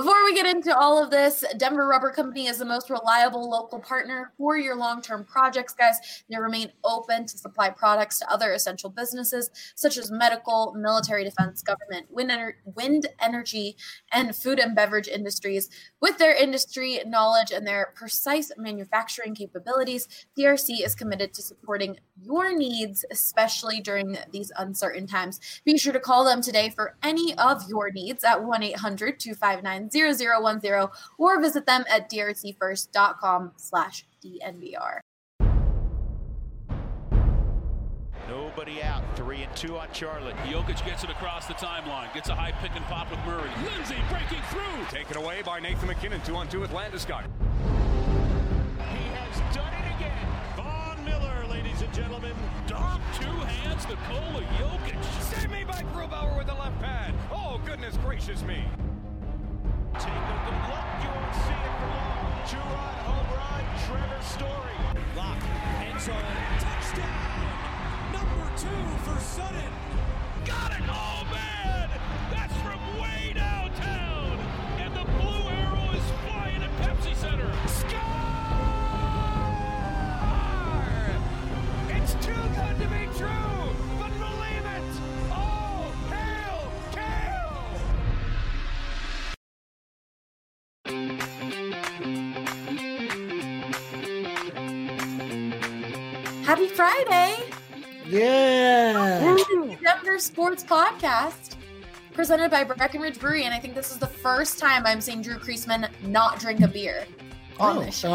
Before we get into all of this, Denver Rubber Company is the most reliable local partner for your long-term projects, guys. They remain open to supply products to other essential businesses such as medical, military defense, government, wind energy, and food and beverage industries. With their industry knowledge and their precise manufacturing capabilities, DRC is committed to supporting your needs, especially during these uncertain times. Be sure to call them today for any of your needs at 1-800-259-0010 or visit them at drcfirst.com/DNVR. Nobody out. 3-2 on Charlotte. Jokic gets it across the timeline. Gets a high pick and pop with Murray. Lindsay breaking through. Taken away by Nathan McKinnon. 2-on-2 with Landeskog. He has done it again. Von Miller, ladies and gentlemen. Dom, two hands, Nikola Jokic. Save me by Grubauer with the left pad. Oh, goodness gracious me. Take a good look. You won't see it for long. Two-run home run. Trevor Story. Lock. End zone. Touchdown. Number 2 for Sutton. Got it! Oh, man! That's from way downtown! And the blue arrow is flying at Pepsi Center. Score! It's too good to be true, but believe it! Oh, hail, Happy Friday! Yeah! Denver Sports Podcast presented by Breckenridge Brewery, and I think this is the first time I'm seeing Drew Kreisman not drink a beer on this show.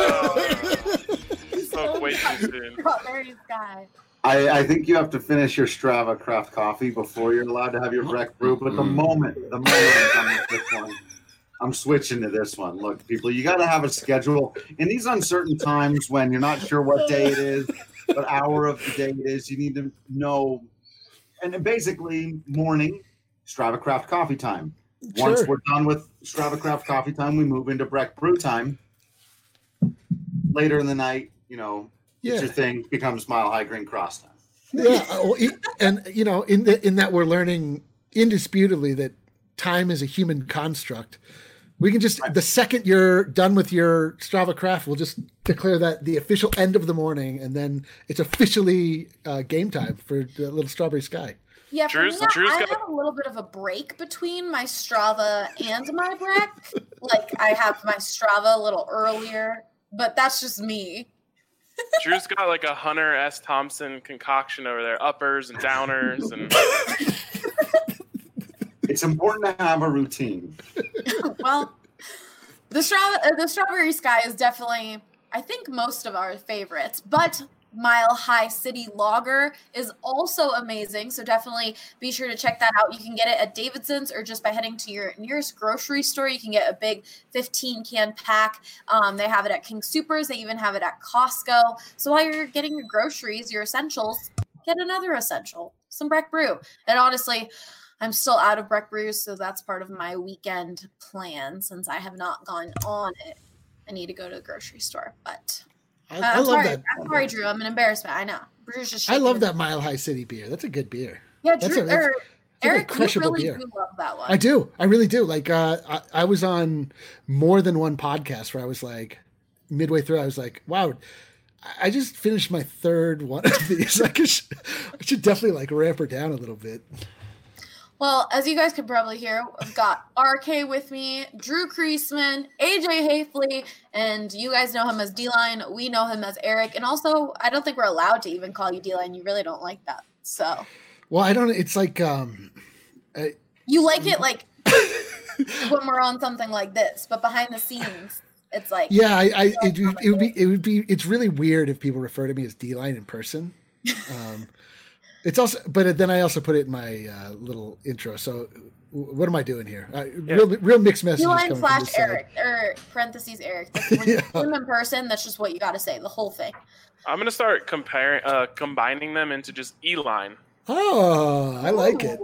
Spoke way too soon. Strawberry Sky. I think you have to finish your Strava craft coffee before you're allowed to have your Breck brew. But the moment I'm done with this one, I'm switching to this one. Look, people, you got to have a schedule. In these uncertain times when you're not sure what day it is, what hour of the day it is, you need to know. And basically, morning, Strava craft coffee time. Sure. Once we're done with Strava craft coffee time, we move into Breck brew time. Later in the night, your thing becomes Mile High Green Cross time. Yeah, and in that we're learning indisputably that time is a human construct. We can just, the second you're done with your Strava craft, we'll just declare that the official end of the morning, and then it's officially game time for the little Strawberry Sky. Yeah, for me, I have a little bit of a break between my Strava and my Breck. Like, I have my Strava a little earlier, but that's just me. Drew's got like a Hunter S. Thompson concoction over there, uppers and downers, and it's important to have a routine. Well, the Strawberry Sky is definitely, I think, most of our favorites, but Mile High City Lager is also amazing, so definitely be sure to check that out. You can get it at Davidson's or just by heading to your nearest grocery store. You can get a big 15-can pack. They have it at King Soopers. They even have it at Costco. So while you're getting your groceries, your essentials, get another essential, some Breck Brew. And honestly, I'm still out of Breck Brews, so that's part of my weekend plan since I have not gone on it. I need to go to the grocery store, but I love that. I'm sorry, Drew. I'm an embarrassment. I know. Drew's just. I love that Mile High City beer. That's a good beer. Yeah, Drew. Eric, you really beer. do love that one. I do. I really do. Like, I was on more than one podcast where I was like, midway through, I was like, wow, I just finished my third one of these. I should definitely like ramp her down a little bit. Well, as you guys can probably hear, I've got RK with me, Drew Kreisman, AJ Hafley, and you guys know him as D-Line. We know him as Eric. And also, I don't think we're allowed to even call you D-Line. You really don't like that. So. Well, I don't. It's like. You like it like when we're on something like this, but behind the scenes, it's like. Yeah, it would be. It's really weird if people refer to me as D-Line in person. It's also, but then I also put it in my little intro. So, what am I doing here? Real mixed messages. D-Line / Eric or parentheses Eric. When you see him in person, that's just what you got to say. The whole thing. I'm gonna start combining them into just E-Line. Oh, I like it.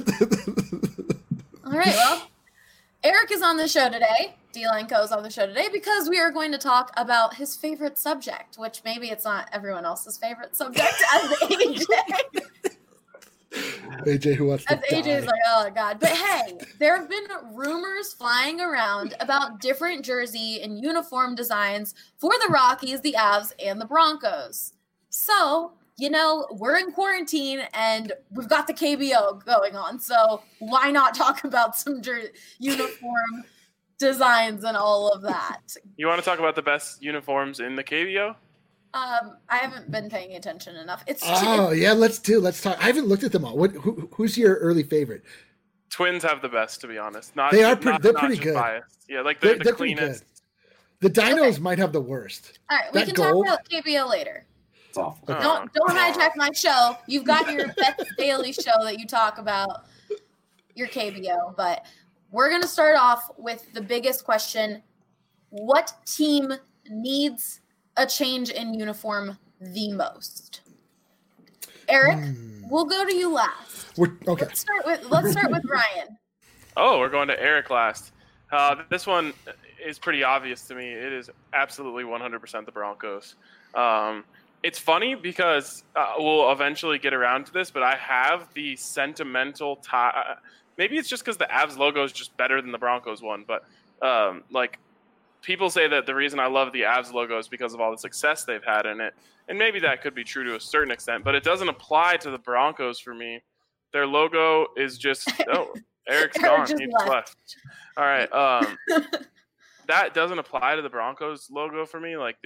All right. Well, Eric is on the show today. D-Line Co. is on the show today because we are going to talk about his favorite subject, which maybe it's not everyone else's favorite subject as AJ. AJ, who wants to As AJ's die. like, oh god. But hey, there have been rumors flying around about different jersey and uniform designs for the Rockies, the Avs, and the Broncos. So, we're in quarantine and we've got the KBO going on. So why not talk about some uniform designs and all of that? You want to talk about the best uniforms in the KBO? I haven't been paying attention enough. Let's talk. I haven't looked at them all. Who's your early favorite? Twins have the best, to be honest. They're pretty good. Biased. Yeah, like they're the cleanest. The Dinos might have the worst. All right, we can talk about KBO later. It's awful. Okay. Don't hijack my show. You've got your Beth Daily show that you talk about your KBO, but we're going to start off with the biggest question. What team needs a change in uniform the most? Eric, we'll go to you last. Okay. Let's start with Ryan. Oh, we're going to Eric last. This one is pretty obvious to me. It is absolutely 100% the Broncos. It's funny because we'll eventually get around to this, but I have the sentimental tie. Maybe it's just because the Avs logo is just better than the Broncos one, but people say that the reason I love the Avs logo is because of all the success they've had in it. And maybe that could be true to a certain extent, but it doesn't apply to the Broncos for me. Their logo is just, Eric's gone. He just left. All right. That doesn't apply to the Broncos logo for me. Like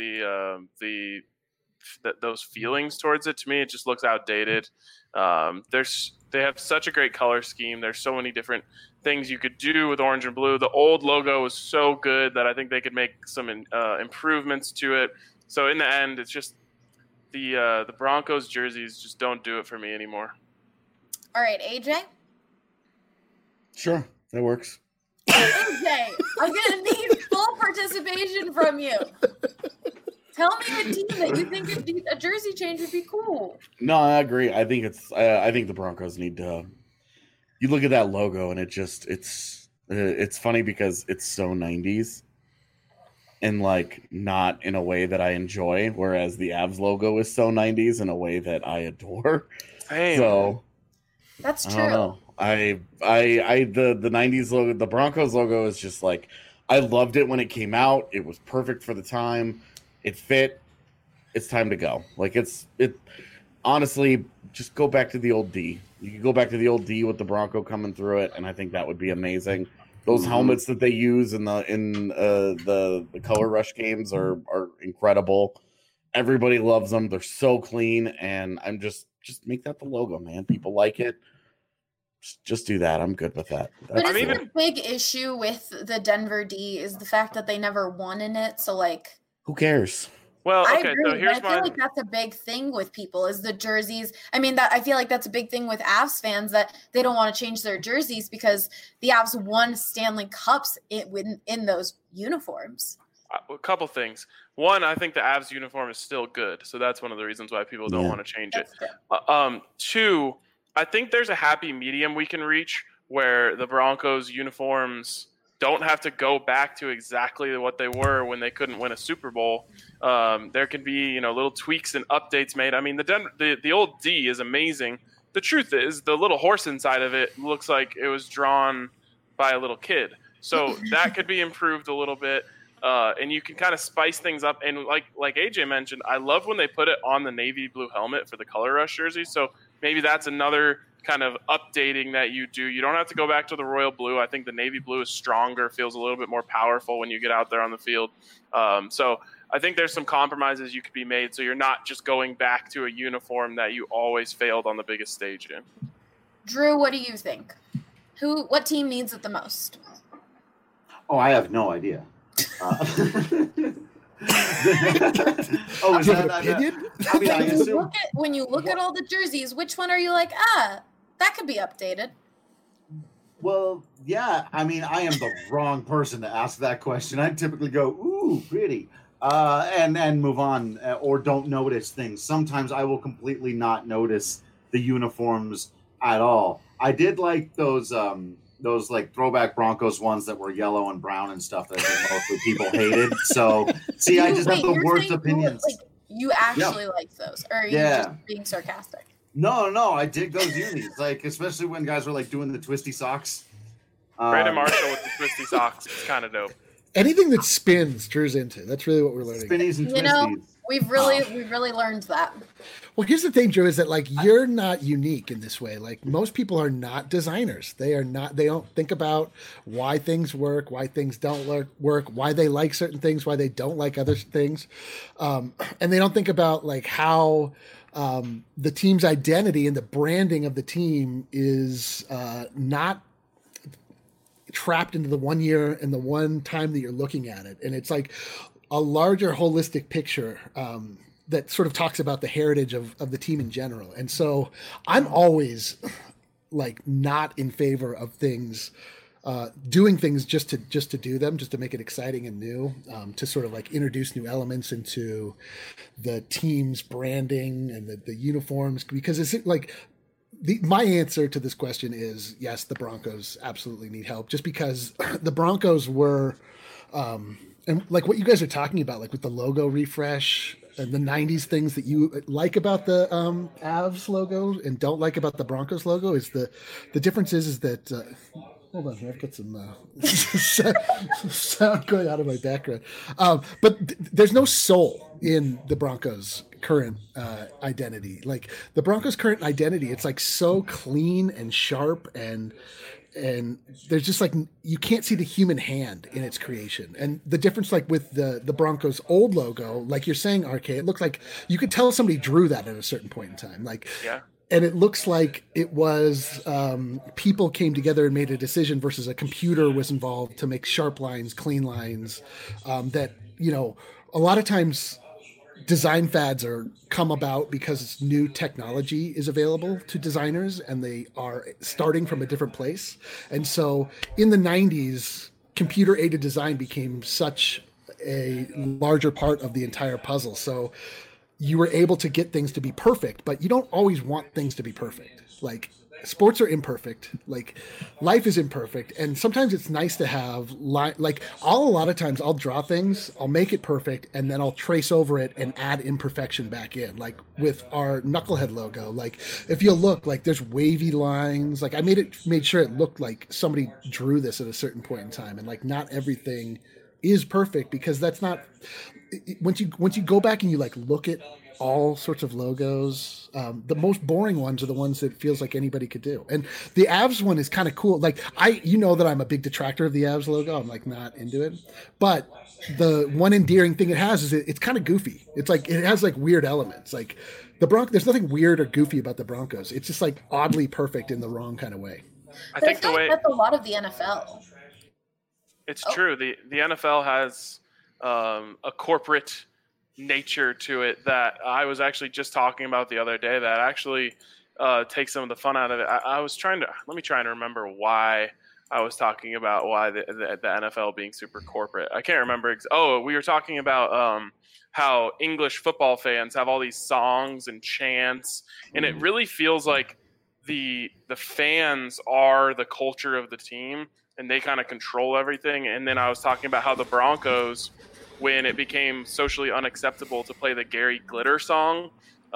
those feelings towards it, to me, it just looks outdated. They have such a great color scheme. There's so many different things you could do with orange and blue. The old logo was so good that I think they could make some improvements to it. So in the end, it's just the Broncos jerseys just don't do it for me anymore. All right, AJ? Sure, that works. AJ, I'm going to need full participation from you. Tell me a team that you think a jersey change would be cool. No, I agree. I think the Broncos need to. You look at that logo, and it's funny because it's so 90s, and like not in a way that I enjoy. Whereas the Avs logo is so 90s in a way that I adore. Hey, so that's true. I don't know. The 90s logo, the Broncos logo is just like, I loved it when it came out. It was perfect for the time. It fit. It's time to go. Like honestly, just go back to the old D. You can go back to the old D with the Bronco coming through it, and I think that would be amazing. Those helmets that they use in the Color Rush games are incredible. Everybody loves them. They're so clean, and I'm just make that the logo, man. People like it. Just do that. I'm good with that. But isn't a big issue with the Denver D is the fact that they never won in it. So like, who cares? Well, okay, I agree, so here's but I feel like that's a big thing with people is the jerseys. I mean, I feel like that's a big thing with Avs fans that they don't want to change their jerseys because the Avs won Stanley Cups in those uniforms. A couple things. One, I think the Avs uniform is still good, so that's one of the reasons why people don't want to change it. Two, I think there's a happy medium we can reach where the Broncos uniforms don't have to go back to exactly what they were when they couldn't win a Super Bowl. There can be, little tweaks and updates made. I mean, the old D is amazing. The truth is, the little horse inside of it looks like it was drawn by a little kid. So that could be improved a little bit. And you can kind of spice things up. And like AJ mentioned, I love when they put it on the navy blue helmet for the Color Rush jersey. So maybe that's another kind of updating that you do. You don't have to go back to the royal blue. I think the navy blue is stronger, feels a little bit more powerful when you get out there on the field. So I think there's some compromises you could be made so you're not just going back to a uniform that you always failed on the biggest stage in. Drew, what do you think? What team needs it the most? Oh, I have no idea. Is that an opinion? I mean, I assume. When you look at all the jerseys, which one are you like, that could be updated? Well, yeah. I mean, I am the wrong person to ask that question. I typically go, ooh, pretty, and move on, or don't notice things. Sometimes I will completely not notice the uniforms at all. I did like those like throwback Broncos ones that were yellow and brown and stuff that I think mostly people hated. So, see, I just have the worst opinions. You actually like those, or are you just being sarcastic? No, I dig those unis. Like, especially when guys were like doing the twisty socks. Brandon Marshall with the twisty socks is kind of dope. Anything that spins, Drew's into. That's really what we're learning. Spinnies and twisties. We've really learned that. Well, here's the thing, Drew, is that like you're not unique in this way. Like most people are not designers. They don't think about why things work, why things don't work, why they like certain things, why they don't like other things. And they don't think about like how the team's identity and the branding of the team is not trapped into the 1 year and the one time that you're looking at it. And it's like a larger holistic picture that sort of talks about the heritage of the team in general. And so I'm always like not in favor of things, doing things just to do them, just to make it exciting and new, to sort of like introduce new elements into the team's branding and the uniforms, because it's like, my answer to this question is yes, the Broncos absolutely need help, just because the Broncos were, and like what you guys are talking about, like with the logo refresh and the 90s things that you like about the Avs logo and don't like about the Broncos logo is the difference is that, hold on here, I've got some sound going out of my background. But there's no soul in the Broncos' current identity. Like the Broncos' current identity, it's like so clean and sharp, and there's just like you can't see the human hand in its creation. And the difference, like with the Broncos' old logo, like you're saying, RK, it looked like you could tell somebody drew that at a certain point in time. Like yeah. And it looks like it was people came together and made a decision versus a computer was involved to make sharp lines, clean lines. That, you know, a lot of times design fads come about because new technology is available to designers and they are starting from a different place. And so in the 90s, computer-aided design became such a larger part of the entire puzzle. So you were able to get things to be perfect, but you don't always want things to be perfect. Like sports are imperfect, like life is imperfect. And sometimes it's nice to have a lot of times I'll draw things, I'll make it perfect, and then I'll trace over it and add imperfection back in. Like with our Knucklehead logo, like if you look, like there's wavy lines, like I made sure it looked like somebody drew this at a certain point in time. And like not everything is perfect, because that's not, once you go back and you like look at all sorts of logos, the most boring ones are the ones that feels like anybody could do. And the Avs one is kind of cool. Like you know that I'm a big detractor of the Avs logo. I'm like not into it, but the one endearing thing it has is it's kind of goofy. It's like, it has like weird elements. Like there's nothing weird or goofy about the Broncos. It's just like oddly perfect in the wrong kind of way. I think that's a lot of the NFL. It's true. The NFL has a corporate nature to it that I was actually just talking about the other day that actually takes some of the fun out of it. Let me try and remember why I was talking about why the NFL being super corporate. I can't remember. We were talking about how English football fans have all these songs and chants, and it really feels like the fans are the culture of the team, and they kind of control everything. And then I was talking about how the Broncos, when it became socially unacceptable to play the Gary Glitter song,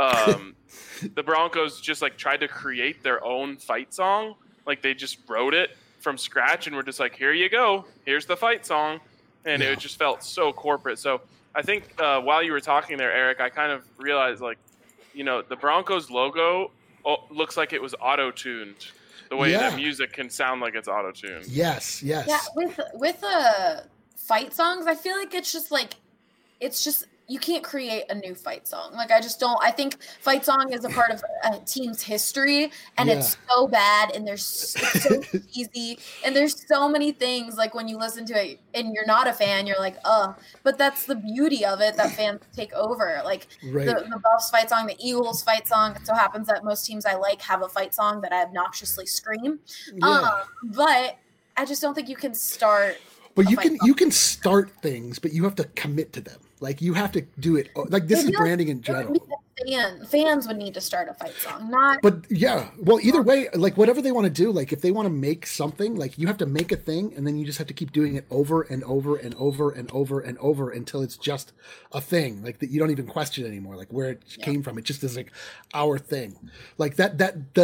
the Broncos just like tried to create their own fight song. Like they just wrote it from scratch and were just like, here you go, here's the fight song. And it just felt so corporate. So I think while you were talking there, Eric, I kind of realized, like, you know, the Broncos logo looks like it was auto-tuned. The way that music can sound like it's auto-tuned. Yes. Yeah, with fight songs, I feel like it's just you can't create a new fight song. Like I think fight song is a part of a team's history, and it's so bad, and it's so easy, and there's so many things, like when you listen to it and you're not a fan, you're like, but that's the beauty of it, that fans take over. Like the Buffs fight song, the Eagles fight song, it so happens that most teams I like have a fight song that I obnoxiously scream. But I just don't think you can start. But you can start things, but you have to commit to them. Like you have to do it. Like this is branding in general. fans would need to start a fight song, not. But yeah, well, either way, like whatever they want to do, like if they want to make something, like you have to make a thing, and then you just have to keep doing it over and over and over and over and over until it's just a thing, like that you don't even question anymore, like where it came from. It just is like our thing, like that.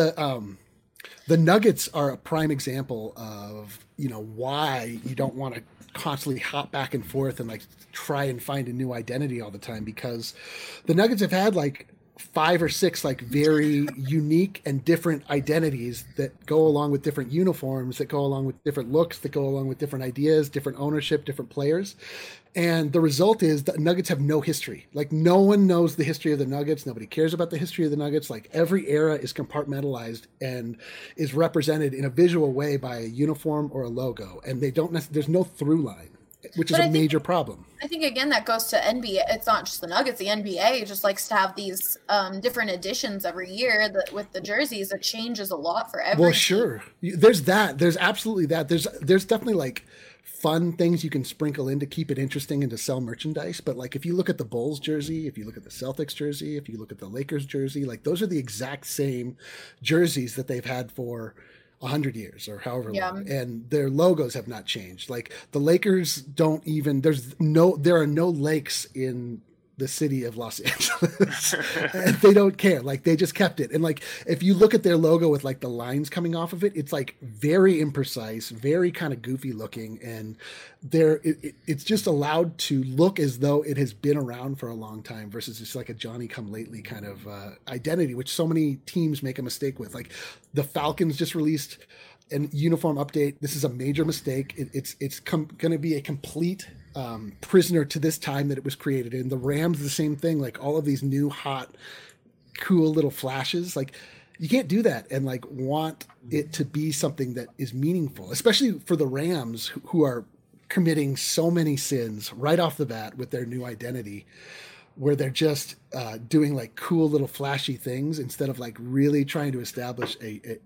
The Nuggets are a prime example of why you don't want to constantly hop back and forth and like try and find a new identity all the time, because the Nuggets have had like 5 or 6 like very unique and different identities that go along with different uniforms, that go along with different looks, that go along with different ideas, different ownership, different players. And the result is the Nuggets have no history. Like no one knows the history of the Nuggets. Nobody cares about the history of the Nuggets. Like every era is compartmentalized and is represented in a visual way by a uniform or a logo. And they don't there's no through line, which is a major problem. I think, again, that goes to NBA. It's not just the Nuggets. The NBA just likes to have these different editions every year with the jerseys. It changes a lot for every Well, sure. There's that. There's absolutely that. There's definitely like fun things you can sprinkle in to keep it interesting and to sell merchandise. But like if you look at the Bulls jersey, if you look at the Celtics jersey, if you look at the Lakers jersey, like those are the exact same jerseys that they've had for 100 years or however long, and their logos have not changed. Like the Lakers don't even, there are no lakes in the city of Los Angeles. And they don't care. Like they just kept it. And like if you look at their logo with like the lines coming off of it, it's like very imprecise, very kind of goofy looking, and it's just allowed to look as though it has been around for a long time versus just like a Johnny come lately kind of identity, which so many teams make a mistake with. Like the Falcons just released an uniform update. This is a major mistake. It's going to be a complete prisoner to this time that it was created in. The Rams, the same thing. Like all of these new hot, cool little flashes. Like you can't do that and like want it to be something that is meaningful, especially for the Rams who are committing so many sins right off the bat with their new identity, where they're just doing like cool little flashy things instead of like really trying to establish a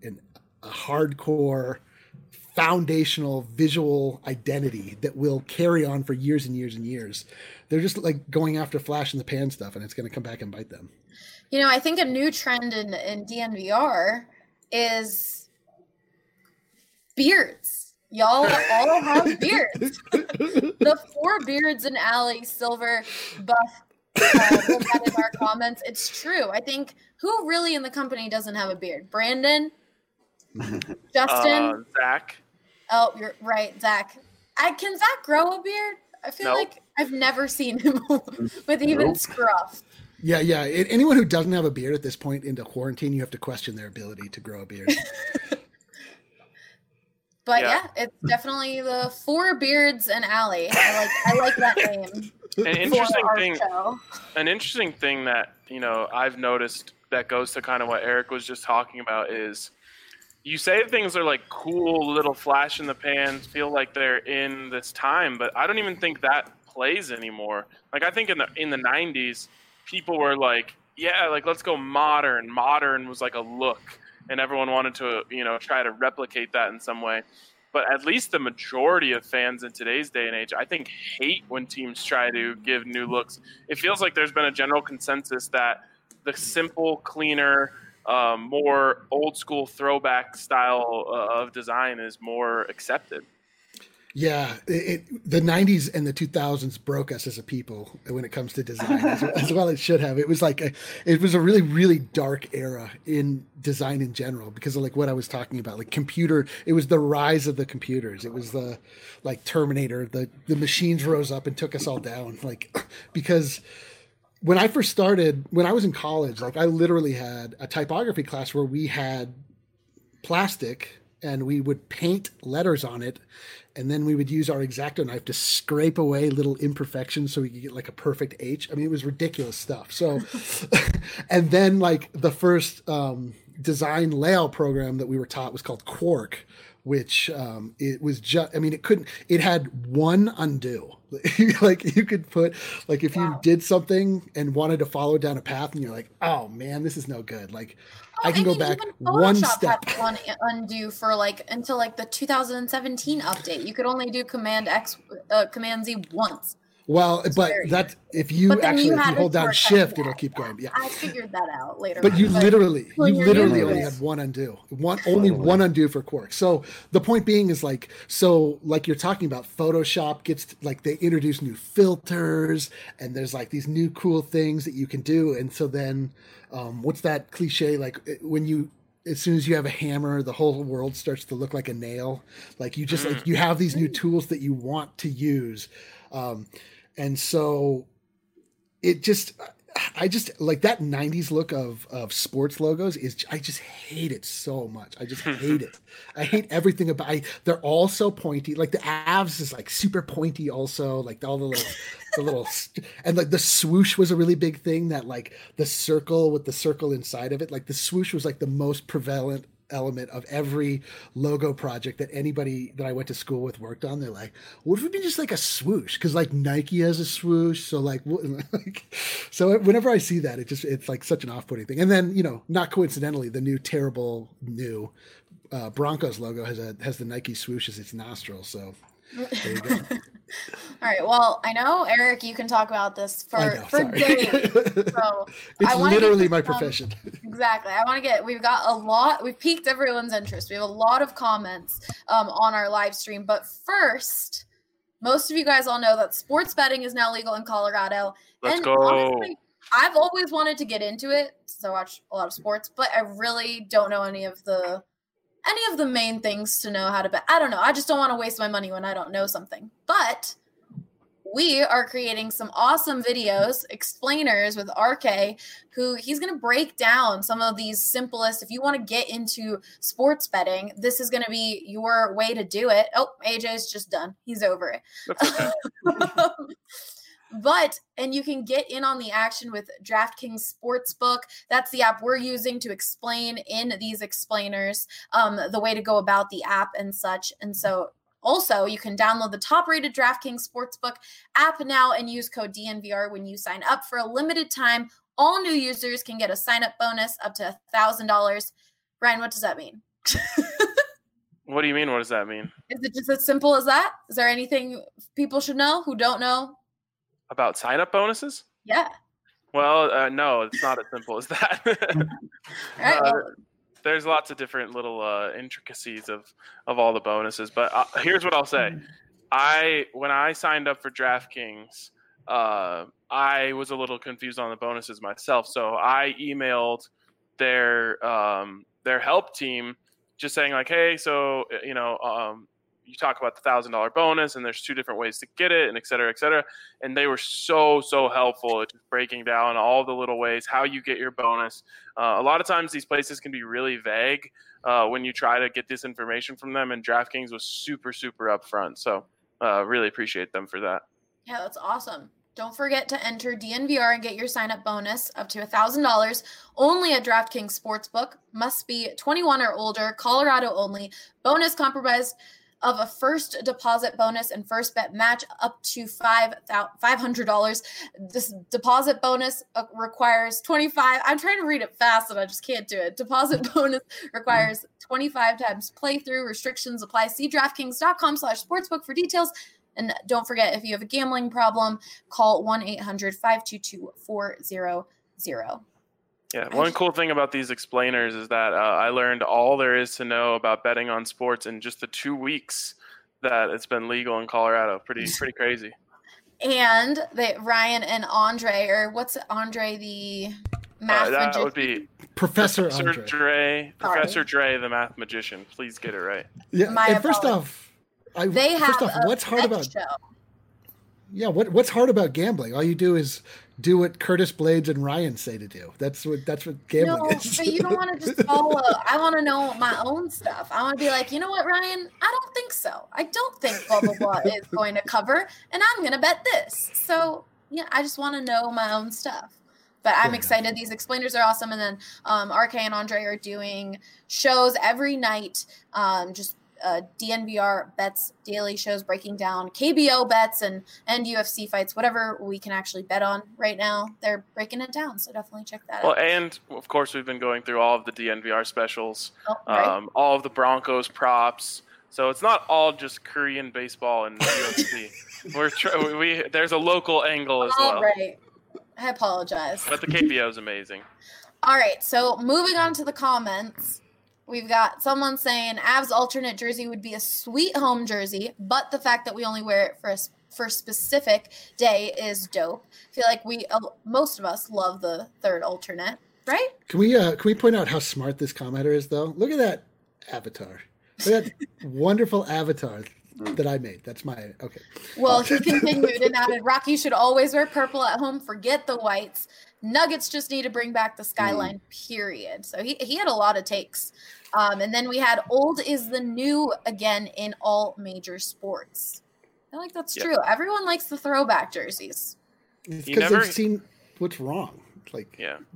hardcore foundational visual identity that will carry on for years and years and years. They're just like going after flash in the pan stuff, and it's going to come back and bite them. I think a new trend in DNVR is beards. Y'all all have beards. The 4 beards in Allie Silver Buff wrote that in our comments. It's true. I think who really in the company doesn't have a beard? Brandon? Justin? Zach. Oh, you're right, Zach. Can Zach grow a beard? I feel like I've never seen him with even scruff. Yeah. Anyone who doesn't have a beard at this point into quarantine, you have to question their ability to grow a beard. But yeah, it's definitely the 4 beards and Allie. I like that name. An interesting thing that I've noticed that goes to kind of what Eric was just talking about is, you say things are like cool little flash in the pans, feel like they're in this time, but I don't even think that plays anymore. Like I think in the 90s, people were like, yeah, like let's go modern. Modern was like a look, and everyone wanted to, try to replicate that in some way. But at least the majority of fans in today's day and age, I think, hate when teams try to give new looks. It feels like there's been a general consensus that the simple, cleaner, more old school throwback style of design is more accepted. Yeah, the 90s and the 2000s broke us as a people when it comes to design, as well it should have. It was like it was a really, really dark era in design in general because of like what I was talking about, like it was the rise of the computers. It was the like Terminator, the machines rose up and took us all down. Like, because when I first started, when I was in college, like I literally had a typography class where we had plastic and we would paint letters on it. And then we would use our X-Acto knife to scrape away little imperfections so we could get like a perfect H. I mean, it was ridiculous stuff. So, and then like the first design layout program that we were taught was called Quark, which it was just, I mean, it had one undo. Like you could put, like if you did something and wanted to follow down a path and you're like, oh man, this is no good. Like I can go back one step. Had one undo for like until like the 2017 update. You could only do Command Z once. Well, but that if you hold down shift, it'll keep going. Yeah, I figured that out later. But you literally only had one undo, only one undo for Quark. So the point being is like you're talking about, Photoshop gets like they introduce new filters and there's like these new cool things that you can do. And so then, what's that cliche? Like as soon as you have a hammer, the whole world starts to look like a nail. Like you just like you have these new tools that you want to use. And so I just like that 90s look of sports logos I just hate it so much. I just hate it. I hate everything about it. They're all so pointy. Like the Avs is like super pointy also, like all the little and like the swoosh was a really big thing, that like the circle with the circle inside of it. Like the swoosh was like the most prevalent element of every logo project that anybody that I went to school with worked on. They're like, what if it be just like a swoosh? Because like Nike has a swoosh, so so whenever I see that, it's like such an off-putting thing. And then not coincidentally, the new terrible Broncos logo has the Nike swoosh as its nostril. So there you go. All right. Well, I know, Eric, you can talk about this for days. So it's literally my profession. Exactly. We've piqued everyone's interest. We have a lot of comments on our live stream. But first, most of you guys all know that sports betting is now legal in Colorado. Let's go. Honestly, I've always wanted to get into it, so I watch a lot of sports, but I really don't know any of the main things to know how to bet. I don't know. I just don't want to waste my money when I don't know something. But we are creating some awesome videos, explainers with RK, who he's going to break down some of these simplest. If you want to get into sports betting, this is going to be your way to do it. Oh, AJ's just done. He's over it. That's okay. And you can get in on the action with DraftKings Sportsbook. That's the app we're using to explain in these explainers the way to go about the app and such. And so also you can download the top-rated DraftKings Sportsbook app now and use code DNVR when you sign up. For a limited time, all new users can get a sign-up bonus up to $1,000. Ryan, what does that mean? What do you mean? What does that mean? Is it just as simple as that? Is there anything people should know who don't know? About sign-up bonuses? Yeah. Well, no, it's not as simple as that. All right, there's lots of different little intricacies of all the bonuses. But here's what I'll say. When I signed up for DraftKings, I was a little confused on the bonuses myself. So I emailed their help team just saying like, hey, so, you talk about the $1,000 bonus and there's two different ways to get it and et cetera, et cetera. And they were so helpful at just breaking down all the little ways, how you get your bonus. A lot of times these places can be really vague when you try to get this information from them, and DraftKings was super upfront. So really appreciate them for that. Yeah, that's awesome. Don't forget to enter DNVR and get your sign-up bonus up to $1,000 only at DraftKings Sportsbook. Must be 21 or older, Colorado only. Bonus comprised of a first deposit bonus and first bet match up to $500. This deposit bonus requires 25. I'm trying to read it fast and I just can't do it. Deposit bonus requires 25 times playthrough. Restrictions apply. See DraftKings.com/sportsbook for details. And don't forget, if you have a gambling problem, call 1-800-522-400. Yeah, one cool thing about these explainers is that I learned all there is to know about betting on sports in just the 2 weeks that it's been legal in Colorado. Pretty crazy. And Ryan and Andre, or what's Andre, the math magician? That would be Professor Dre, Professor Dre, the math magician. Please get it right. Yeah, and first off, what's hard about show. Yeah, what's hard about gambling? All you do is do what Curtis Blades and Ryan say to do. That's what gambling is. But you don't want to just follow. I want to know my own stuff. I want to be like, you know what, Ryan? I don't think so. I don't think blah blah blah is going to cover, and I'm going to bet this. So yeah, I just want to know my own stuff. But I'm excited. These explainers are awesome. And then RK and Andre are doing shows every night. DNVR bets, daily shows breaking down KBO bets and UFC fights, whatever we can actually bet on right now. They're breaking it down, so definitely check that out. Well, and of course we've been going through all of the DNVR specials, right. All of the Broncos props, So it's not all just Korean baseball and UFC. There's a local angle as well. All right. I apologize. But the KBO is amazing. All right, so moving on to the comments, we've got someone saying Avs alternate jersey would be a sweet home jersey, but the fact that we only wear it for a specific day is dope. I feel like most of us love the third alternate, right? Can we point out how smart this commenter is, though? Look at that avatar. Look at that wonderful avatar that I made. That's my okay. Well, he continued and added, Rocky should always wear purple at home. Forget the whites. Nuggets just need to bring back the skyline, period. So he had a lot of takes. And then we had old is the new again in all major sports. I feel like that's true. Everyone likes the throwback jerseys. It's because they've seen what's wrong. Like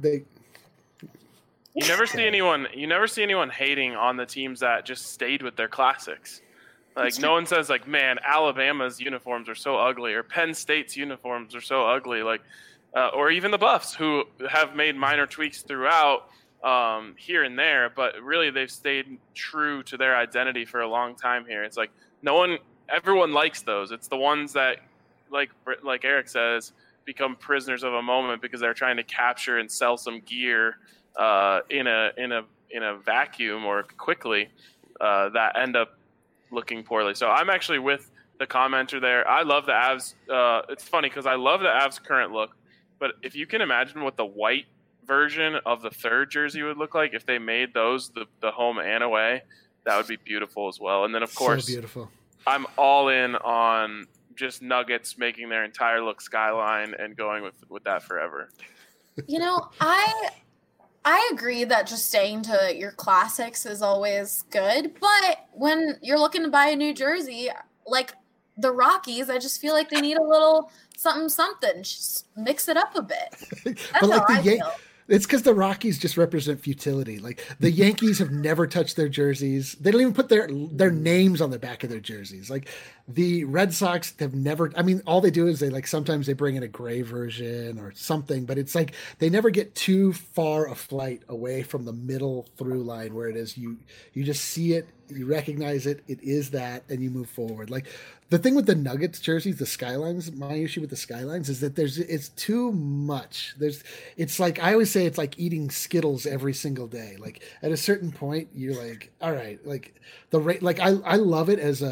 You never see anyone hating on the teams that just stayed with their classics. Like no one says like, man, Alabama's uniforms are so ugly, or Penn State's uniforms are so ugly, like, or even the Buffs, who have made minor tweaks throughout here and there, but really they've stayed true to their identity for a long time here. It's like everyone likes those. It's the ones that, like Eric says, become prisoners of a moment because they're trying to capture and sell some gear in a vacuum or quickly that end up looking poorly. So I'm actually with the commenter there. I love the Avs. It's funny because I love the Avs current look, but if you can imagine what the white version of the third jersey would look like if they made those the home and away, that would be beautiful as well. And then of course, so beautiful. I'm all in on just Nuggets making their entire look skyline and going with that forever. You know, I agree that just staying to your classics is always good, but when you're looking to buy a new jersey, like the Rockies, I just feel like they need a little something. Just mix it up a bit. That's but like how I feel. It's because the Rockies just represent futility. Like the Yankees have never touched their jerseys. They don't even put their names on the back of their jerseys. Like the Red Sox have never, I mean, all they do is sometimes they bring in a gray version or something, but it's like they never get too far a flight away from the middle through line where it is you just see it, you recognize it, it is that, and you move forward. Like the thing with the Nuggets jerseys, the skylines, my issue with the skylines is that it's too much. It's like, I always say it's like eating Skittles every single day. Like at a certain point, you're like, all right, like I love it as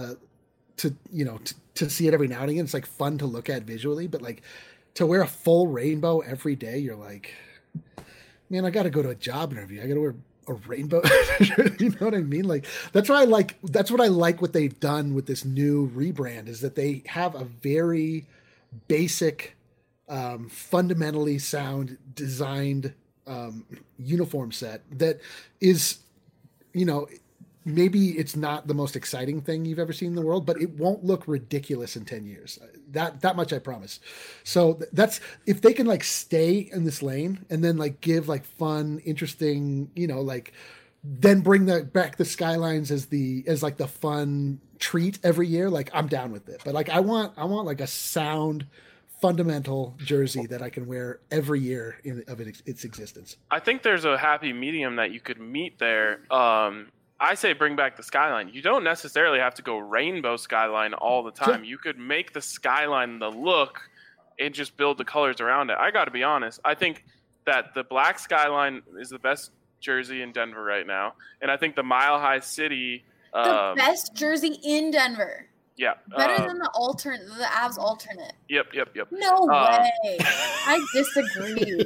to see it every now and again. It's like fun to look at visually, but like to wear a full rainbow every day, you're like, man, I got to go to a job interview. I got to wear a rainbow. You know what I mean? Like that's what I like what they've done with this new rebrand is that they have a very basic, fundamentally sound designed uniform set that is, maybe it's not the most exciting thing you've ever seen in the world, but it won't look ridiculous in 10 years. That much I promise. So that's, if they can like stay in this lane and then like give like fun, interesting, then bring back the skylines as like the fun treat every year. Like I'm down with it, but like I want like a sound fundamental jersey that I can wear every year of its existence. I think there's a happy medium that you could meet there. I say bring back the skyline. You don't necessarily have to go rainbow skyline all the time. Sure. You could make the skyline the look and just build the colors around it. I got to be honest. I think that the black skyline is the best jersey in Denver right now. And I think the Mile High City... the best jersey in Denver. Yeah. Better than the Avs alternate. Yep. No way. I disagree.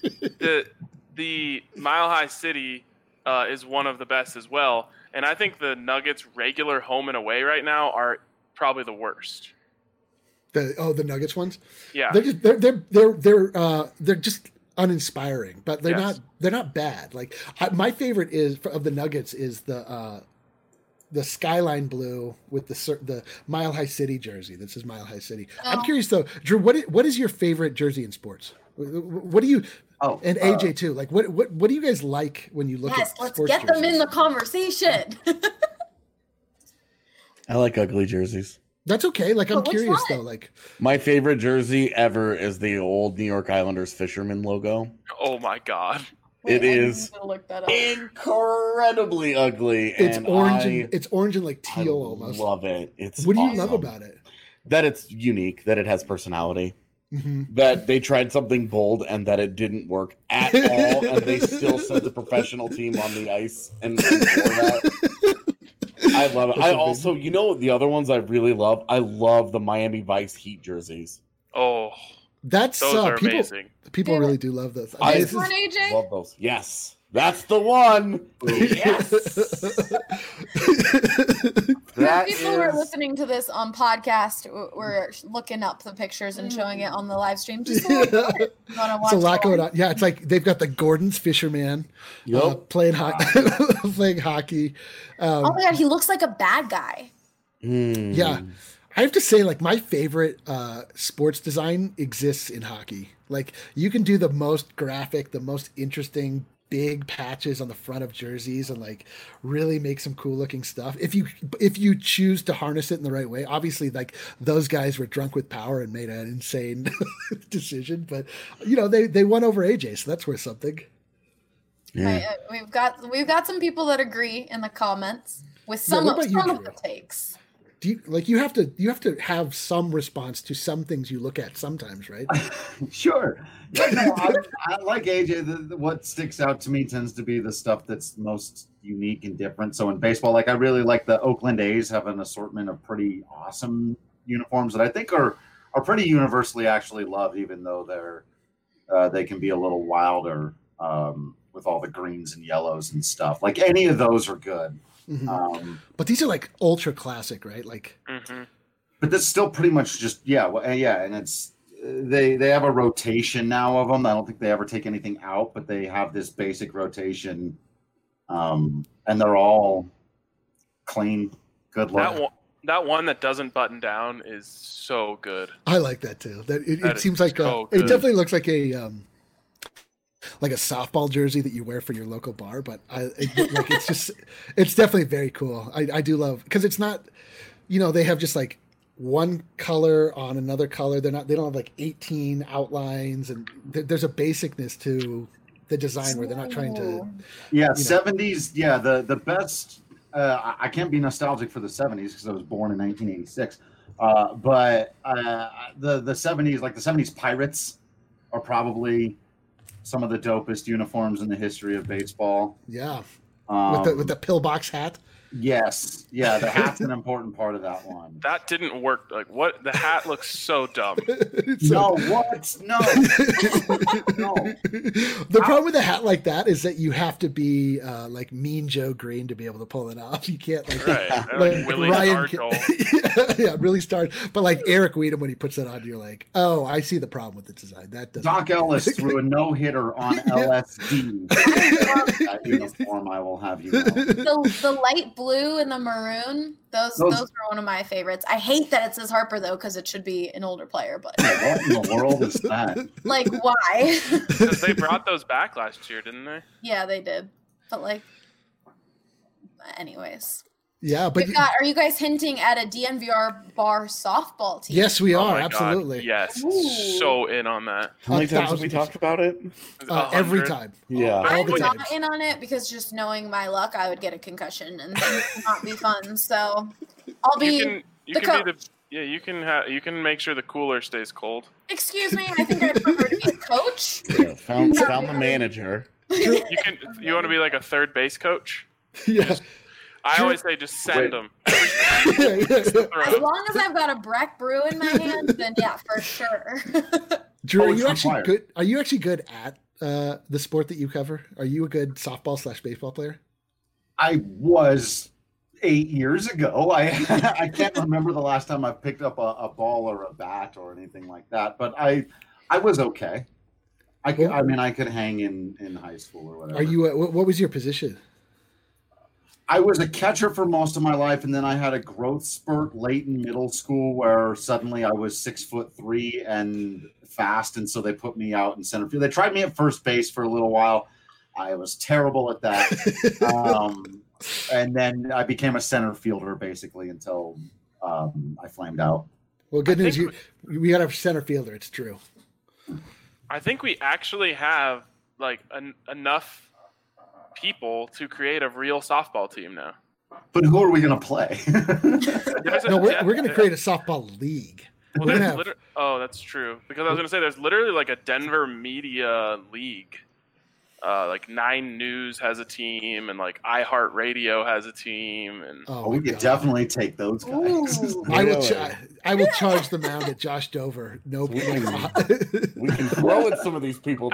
The Mile High City... is one of the best as well, and I think the Nuggets' regular home and away right now are probably the worst. The Nuggets ones, yeah, they're just uninspiring, but they're not bad. Like my favorite of the Nuggets is the skyline blue with the Mile High City jersey that says Mile High City. Oh. I'm curious though, Drew, what is your favorite jersey in sports? What do you? Oh, and AJ too. Like, what do you guys like when you look at sports? Let's get them in the conversation. I like ugly jerseys. That's okay. Like, I'm curious though. Like, my favorite jersey ever is the old New York Islanders fisherman logo. Oh my god! It is need to look that up. incredibly ugly. It's and orange. It's orange and like I teal almost. love it. It's What do you awesome. love about it? That it's unique, that it has personality, Mm-hmm. that they tried something bold and that it didn't work at all, and they still sent the professional team on the ice and for that. I love it. I also, the other ones I really love. I love the Miami Vice Heat jerseys. Oh, That's those are people. amazing. People really do love those. I This is- One, AJ? Love those. Yes, that's the one. Yes. That People who are is- listening to this on podcast, we're looking up the pictures and showing it on the live stream. Just Yeah. you want to watch. It's a lot more. going on. Yeah, it's like they've got the Gordon's Fisherman playing playing hockey. Oh my god, he looks like a bad guy. Yeah, I have to say, like my favorite sports design exists in hockey. Like you can do the most graphic, the most interesting big patches on the front of jerseys and like really make some cool looking stuff if you choose to harness it in the right way. Obviously, like those guys were drunk with power and made an insane decision, but they won over AJ, so that's worth something. Yeah. We've got some people that agree in the comments with some what about you, of Drew? the takes. Do you have to have some response to some things you look at sometimes, right? Sure. Yeah, no, I like AJ. What sticks out to me tends to be the stuff that's most unique and different. So in baseball, like I really like the Oakland A's have an assortment of pretty awesome uniforms that I think are pretty universally actually loved, even though they can be a little wilder with all the greens and yellows and stuff. Like any of those are good. Mm-hmm. But these are like ultra classic, right? Like, but that's still pretty much just and it's they have a rotation now of them. I don't think they ever take anything out, but they have this basic rotation, and they're all clean, good look. That one that doesn't button down is so good. I like that too. It seems like so it good. definitely looks like a softball jersey that you wear for your local bar, but it's definitely very cool. I do love because it's not, they have just like one color on another color. They don't have like 18 outlines, and there's a basicness to the design where they're not trying to. Yeah, 70s. Yeah, the best. I can't be nostalgic for the 70s because I was born in 1986. But the 70s, like the 70s Pirates, are probably some of the dopest uniforms in the history of baseball. Yeah, with the pillbox hat. Yes, yeah, the hat's an important part of that one. That didn't work. Like what? The hat looks so dumb. No, what? No. No. The problem with a hat like that is that you have to be like Mean Joe Green to be able to pull it off. You can't Like Willie Stargell. Yeah, really start. But like Eric Weedham, when he puts that on, you're like, oh, I see the problem with the design. That doesn't. Doc Ellis threw a no-hitter on LSD. That uniform, I will have you know. The light blue and the maroon, those are one of my favorites. I hate that it says Harper though, because it should be an older player. But What in the world is that? like, why? Because they brought those back last year, didn't they? Yeah, they did. But like, anyways. Yeah, but Are you guys hinting at a DNVR bar softball team? yes, we Oh are my absolutely. God. Yes, Ooh. so in on that. How many times have we talked about it? Every 100. time. Yeah. all I'm the not times. in on it because just knowing my luck, I would get a concussion and things would not be fun. So I'll be You the can be coach. you can make sure the cooler stays cold. Excuse me, I think I'd prefer to be a coach. Yeah, found the manager. You want to be like a third base coach? Yeah. I always say just send them. As long as I've got a Breck Brew in my hand, then yeah, for sure. Drew, Oh, are it's you actually required. good? Are you actually good at the sport that you cover? Are you a good softball/baseball player? I was 8 years ago. I can't remember the last time I picked up a ball or a bat or anything like that, but I was okay. I could hang in high school or whatever. Are you? What was your position? I was a catcher for most of my life, and then I had a growth spurt late in middle school where suddenly I was 6'3" and fast, and so they put me out in center field. They tried me at first base for a little while. I was terrible at that, and then I became a center fielder basically until I flamed out. Well, good news. We got a center fielder. It's Drew. I think we actually have enough people to create a real softball team now. But who are we going to play? No, we're going to create a softball league. Well, that's true. Because I was going to say there's literally like a Denver media league. Like 9 News has a team, and like iHeartRadio has a team, and we could definitely take those guys. I will charge the mound at Josh Dover. No problem. We can throw at some of these people.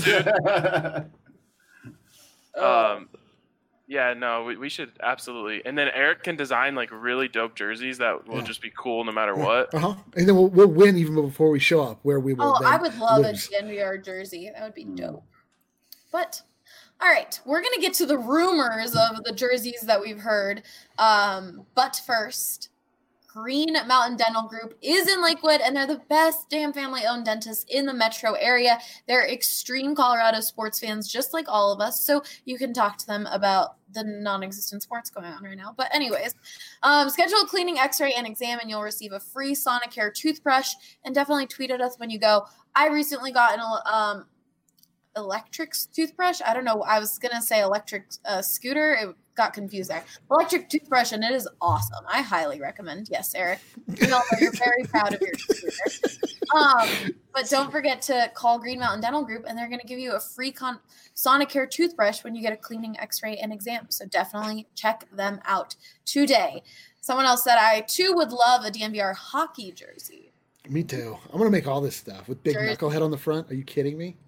Yeah, no, we should absolutely. And then Eric can design like really dope jerseys that will just be cool no matter what. And then we'll win even before we show up. Where we will. I would love a DNVR jersey. That would be dope. But all right, we're gonna get to the rumors of the jerseys that we've heard. But first, Green Mountain Dental Group is in Lakewood, and they're the best damn family-owned dentists in the metro area. They're extreme Colorado sports fans, just like all of us, so you can talk to them about the non-existent sports going on right now. But anyways, schedule a cleaning, x-ray, and exam, and you'll receive a free Sonicare toothbrush. And definitely tweet at us when you go. I recently got an electric toothbrush. I don't know. I was going to say electric scooter. It got confused there. Electric toothbrush, and it is awesome. I highly recommend. Yes, Eric. You know, you're very proud of your scooter. But don't forget to call Green Mountain Dental Group, and they're going to give you a free Sonicare toothbrush when you get a cleaning, x-ray, and exam. So definitely check them out today. Someone else said, I too would love a DNVR hockey jersey. Me too. I'm going to make all this stuff with big knucklehead on the front. Are you kidding me?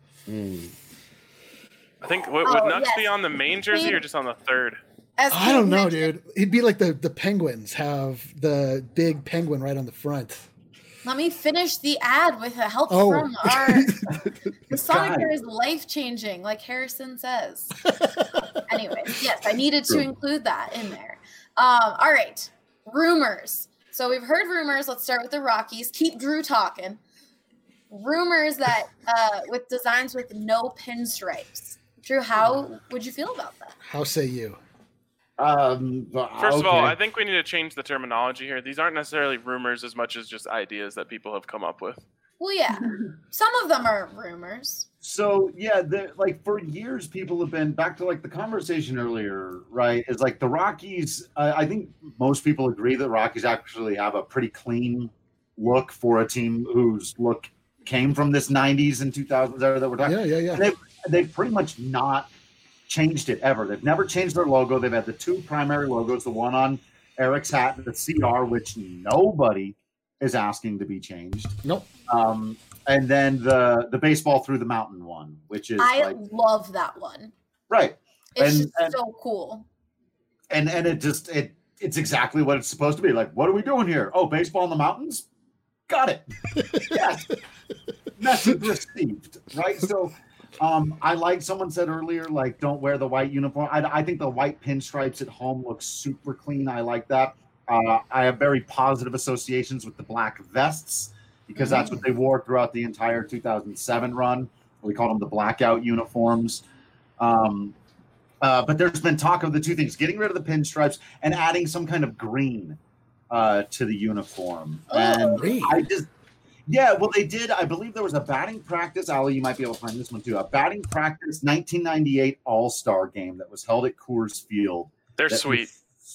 I think would Nucks be on the main jersey or just on the third? I don't know, dude. It'd be like the Penguins have the big penguin right on the front. Let me finish the ad with a help from the Sonicare is life-changing, like Harrison says. Anyways, yes, I needed to include that in there. All right, rumors. So we've heard rumors. Let's start with the Rockies. Keep Drew talking. Rumors that with designs with no pinstripes. Drew, how would you feel about that? How say you? First of all, I think we need to change the terminology here. These aren't necessarily rumors as much as just ideas that people have come up with. Well, yeah. Some of them are rumors. So, yeah, like for years, people have been back to like the conversation earlier, right? Is like the Rockies. I think most people agree that Rockies actually have a pretty clean look for a team whose look came from this 90s and 2000s era that we're talking. Yeah. They've pretty much not changed it ever. They've never changed their logo. They've had the 2 primary logos, the one on Eric's hat, the CR, which nobody is asking to be changed. Nope. And then the baseball through the mountain one, which is I love that one. Right. It's so cool. And it's exactly what it's supposed to be. Like, what are we doing here? Oh, baseball in the mountains? Got it. Yes. Message received. Right. So I like someone said earlier, like, don't wear the white uniform. I think the white pinstripes at home look super clean. I like that. I have very positive associations with the black vests because that's what they wore throughout the entire 2007 run. We called them the blackout uniforms. But there's been talk of the 2 things, getting rid of the pinstripes and adding some kind of green to the uniform. And green. Well, they did. I believe there was a batting practice. Ali, you might be able to find this one too. A batting practice 1998 All-Star game that was held at Coors Field. They're sweet.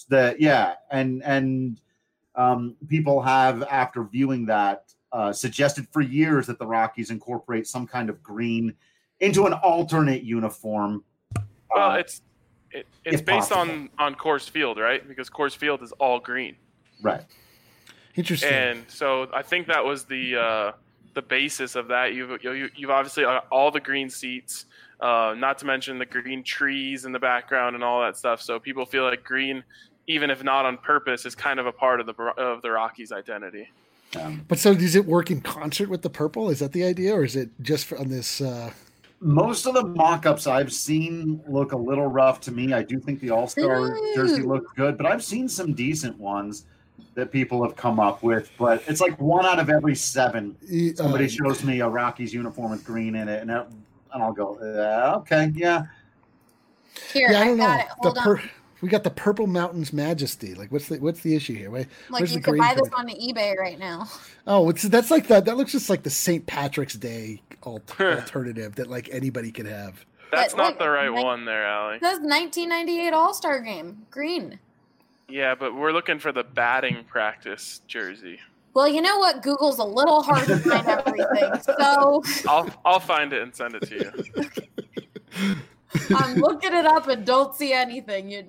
And people have, after viewing that, suggested for years that the Rockies incorporate some kind of green into an alternate uniform. Well, it's based on Coors Field, right? Because Coors Field is all green. Right. Interesting. And so I think that was the basis of that. You've obviously all the green seats, not to mention the green trees in the background and all that stuff. So people feel like green, even if not on purpose, is kind of a part of the Rockies' identity. But so does it work in concert with the purple? Is that the idea, or is it just on this? Most of the mock-ups I've seen look a little rough to me. I do think the All-Star jersey looks good, but I've seen some decent ones that people have come up with. But it's like 1 out of every 7. Somebody shows me a Rockies uniform with green in it, and I'll go, okay, yeah. Here, I don't know. got it. Hold on. We got the Purple Mountains Majesty. Like, what's the issue here? Like, you could buy this on eBay right now. Oh, that's like that. That looks just like the St. Patrick's Day alternative that like anybody could have. That's But not look, the right nine- one there, Allie. It says 1998 All-Star Game, green. Yeah, but we're looking for the batting practice jersey. Well, you know what? Google's a little hard to find everything, so I'll find it and send it to you. I'm looking it up and don't see anything.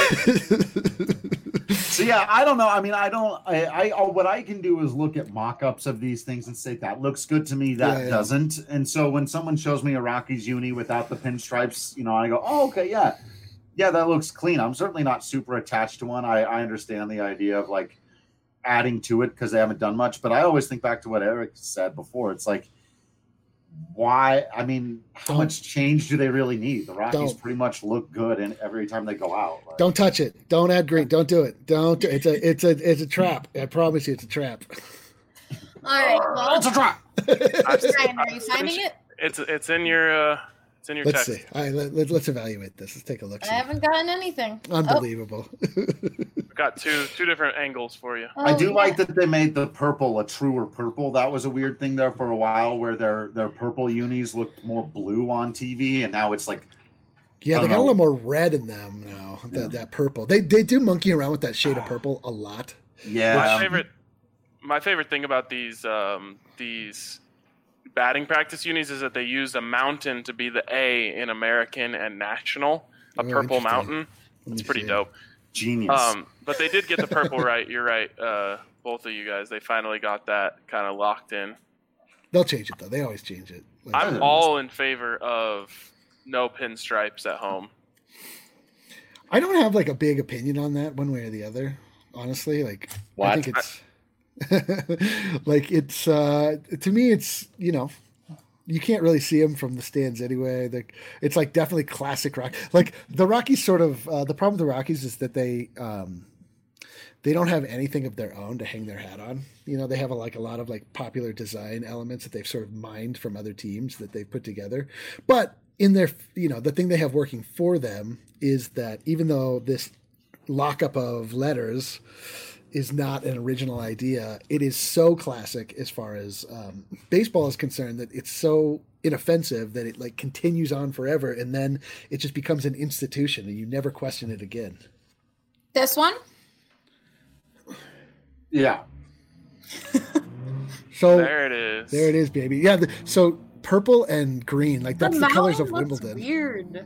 So yeah, I don't know. I mean, I what I can do is look at mock-ups of these things and say that looks good to me, that doesn't. And so when someone shows me a Rockies uni without the pinstripes, I go, oh, okay, yeah, that looks clean. I'm certainly not super attached to one. I understand the idea of like adding to it because they haven't done much, but I always think back to what Eric said before. It's like, why? I mean, how much change do they really need? The Rockies pretty much look good in every time they go out. Like, don't touch it. Don't add green. Don't do it. Don't. It's a trap. I promise you, it's a trap. All right. Well, it's a trap. Ryan, are you finding it? It's in your Let's text. see. All right, let's evaluate this. Let's take a look. I haven't gotten anything. Unbelievable. We've got two different angles for you. I do like that they made the purple a truer purple. That was a weird thing there for a while, where their purple unis looked more blue on TV, and now it's like, yeah, they got a little more red in them now. That purple. They do monkey around with that shade of purple a lot. Yeah. My favorite thing about these batting practice unis is that they use a mountain to be the A in American and National, a purple mountain. It's pretty dope. Genius. But they did get the purple right. You're right. Both of you guys, they finally got that kind of locked in. They'll change it though. They always change it. I'm all in favor of no pinstripes at home. I don't have like a big opinion on that one way or the other. Honestly, like What? I think it's like it's to me it's you can't really see them from the stands anyway. It's like definitely classic rock. Like the Rockies sort of the problem with the Rockies is that they don't have anything of their own to hang their hat on. They have a lot of like popular design elements that they've sort of mined from other teams that they've put together. But in their the thing they have working for them is that even though this lockup of letters is not an original idea, it is so classic as far as baseball is concerned that it's so inoffensive that it like continues on forever, and then it just becomes an institution and you never question it again. This one? Yeah. So there it is. There it is, baby. Yeah. So purple and green, like that's the colors of looks Wimbledon. Weird.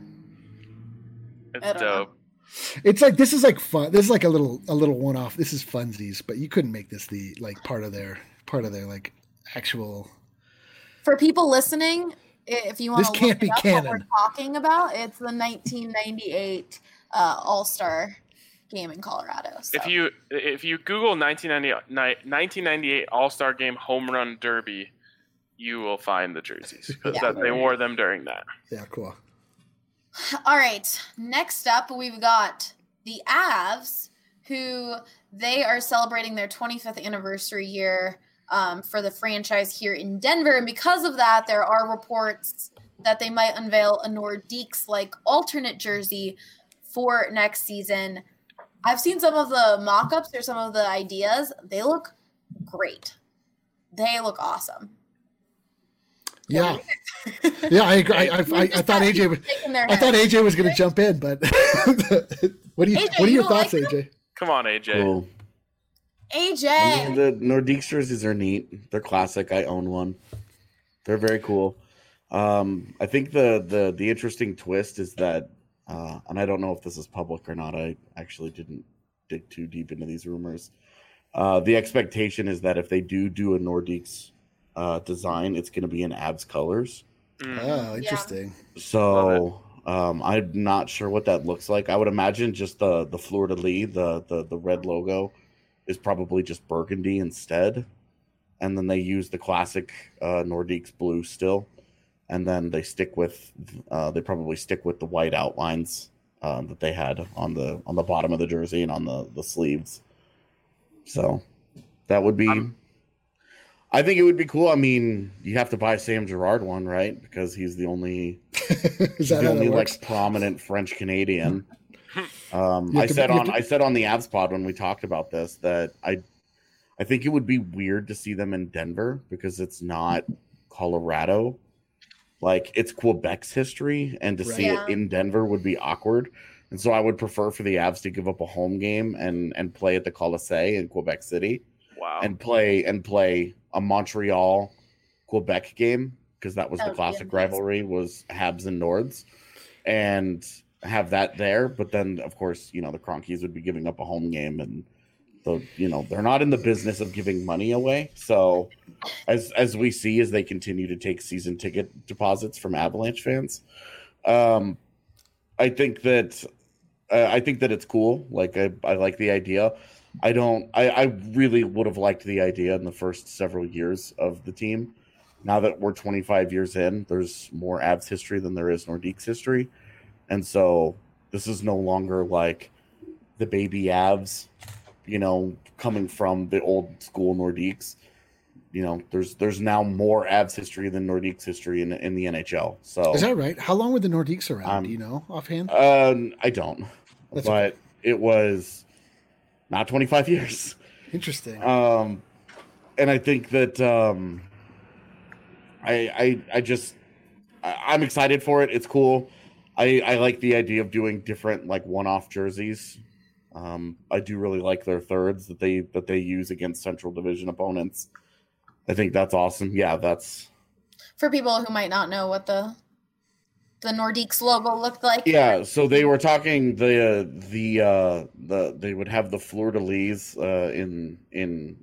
It's dope. It's like this is like fun. This is like a little one off. This is funsies, but you couldn't make this the like part of their like actual. For people listening, if you want This to can't look be up canon. what we're talking about, it's the 1998 All-Star game in Colorado. So. If you Google 1998 All-Star Game Home Run Derby, you will find the jerseys because they wore them during that. Yeah, cool. All right. Next up, we've got the Avs, who they are celebrating their 25th anniversary year for the franchise here in Denver. And because of that, there are reports that they might unveil a Nordiques like alternate jersey for next season. I've seen some of the mock-ups or some of the ideas. They look great. They look awesome. Yeah, yeah, I agree. I thought AJ was going to jump in, but what are your thoughts, AJ? Come on, AJ. Cool. AJ. I mean, the Nordiques jerseys are neat. They're classic. I own one. They're very cool. I think the interesting twist is that, and I don't know if this is public or not. I actually didn't dig too deep into these rumors. The expectation is that if they do a Nordiques design, it's going to be in Avs colors. Oh, interesting. So I'm not sure what that looks like. I would imagine just the Fleur de Lis, the red logo, is probably just burgundy instead, and then they use the classic Nordiques blue still, and then they probably stick with the white outlines that they had on the bottom of the jersey and on the sleeves. So that would be. I think it would be cool. I mean, you have to buy Sam Girard one, right? Because he's the only like prominent French Canadian. I said on the Avs pod when we talked about this that I think it would be weird to see them in Denver because it's not Colorado. like it's Quebec's history, and to see it in Denver would be awkward. And so I would prefer for the Avs to give up a home game and play at the Colisée in Quebec City. Wow. And play a Montreal Quebec game, because that was the classic rivalry, was Habs and Nords, and have that there. But then of course, the Cronkies would be giving up a home game, and they're not in the business of giving money away. So as we see, as they continue to take season ticket deposits from Avalanche fans, I think that it's cool. Like I like the idea. I really would have liked the idea in the first several years of the team. Now that we're 25 years in, there's more Avs history than there is Nordiques history. And so this is no longer like the baby Avs, coming from the old school Nordiques. There's now more Avs history than Nordiques history in the NHL. So is that right? How long were the Nordiques around? Do you know offhand? I don't. But okay. It was not 25 years. Interesting. And I think that I'm excited for it. It's cool. I like the idea of doing different like one-off jerseys. I do really like their thirds that they use against Central Division opponents. I think that's awesome. Yeah, that's for people who might not know what the Nordiques logo looked like. Yeah, so they were talking they would have the fleur-de-lis in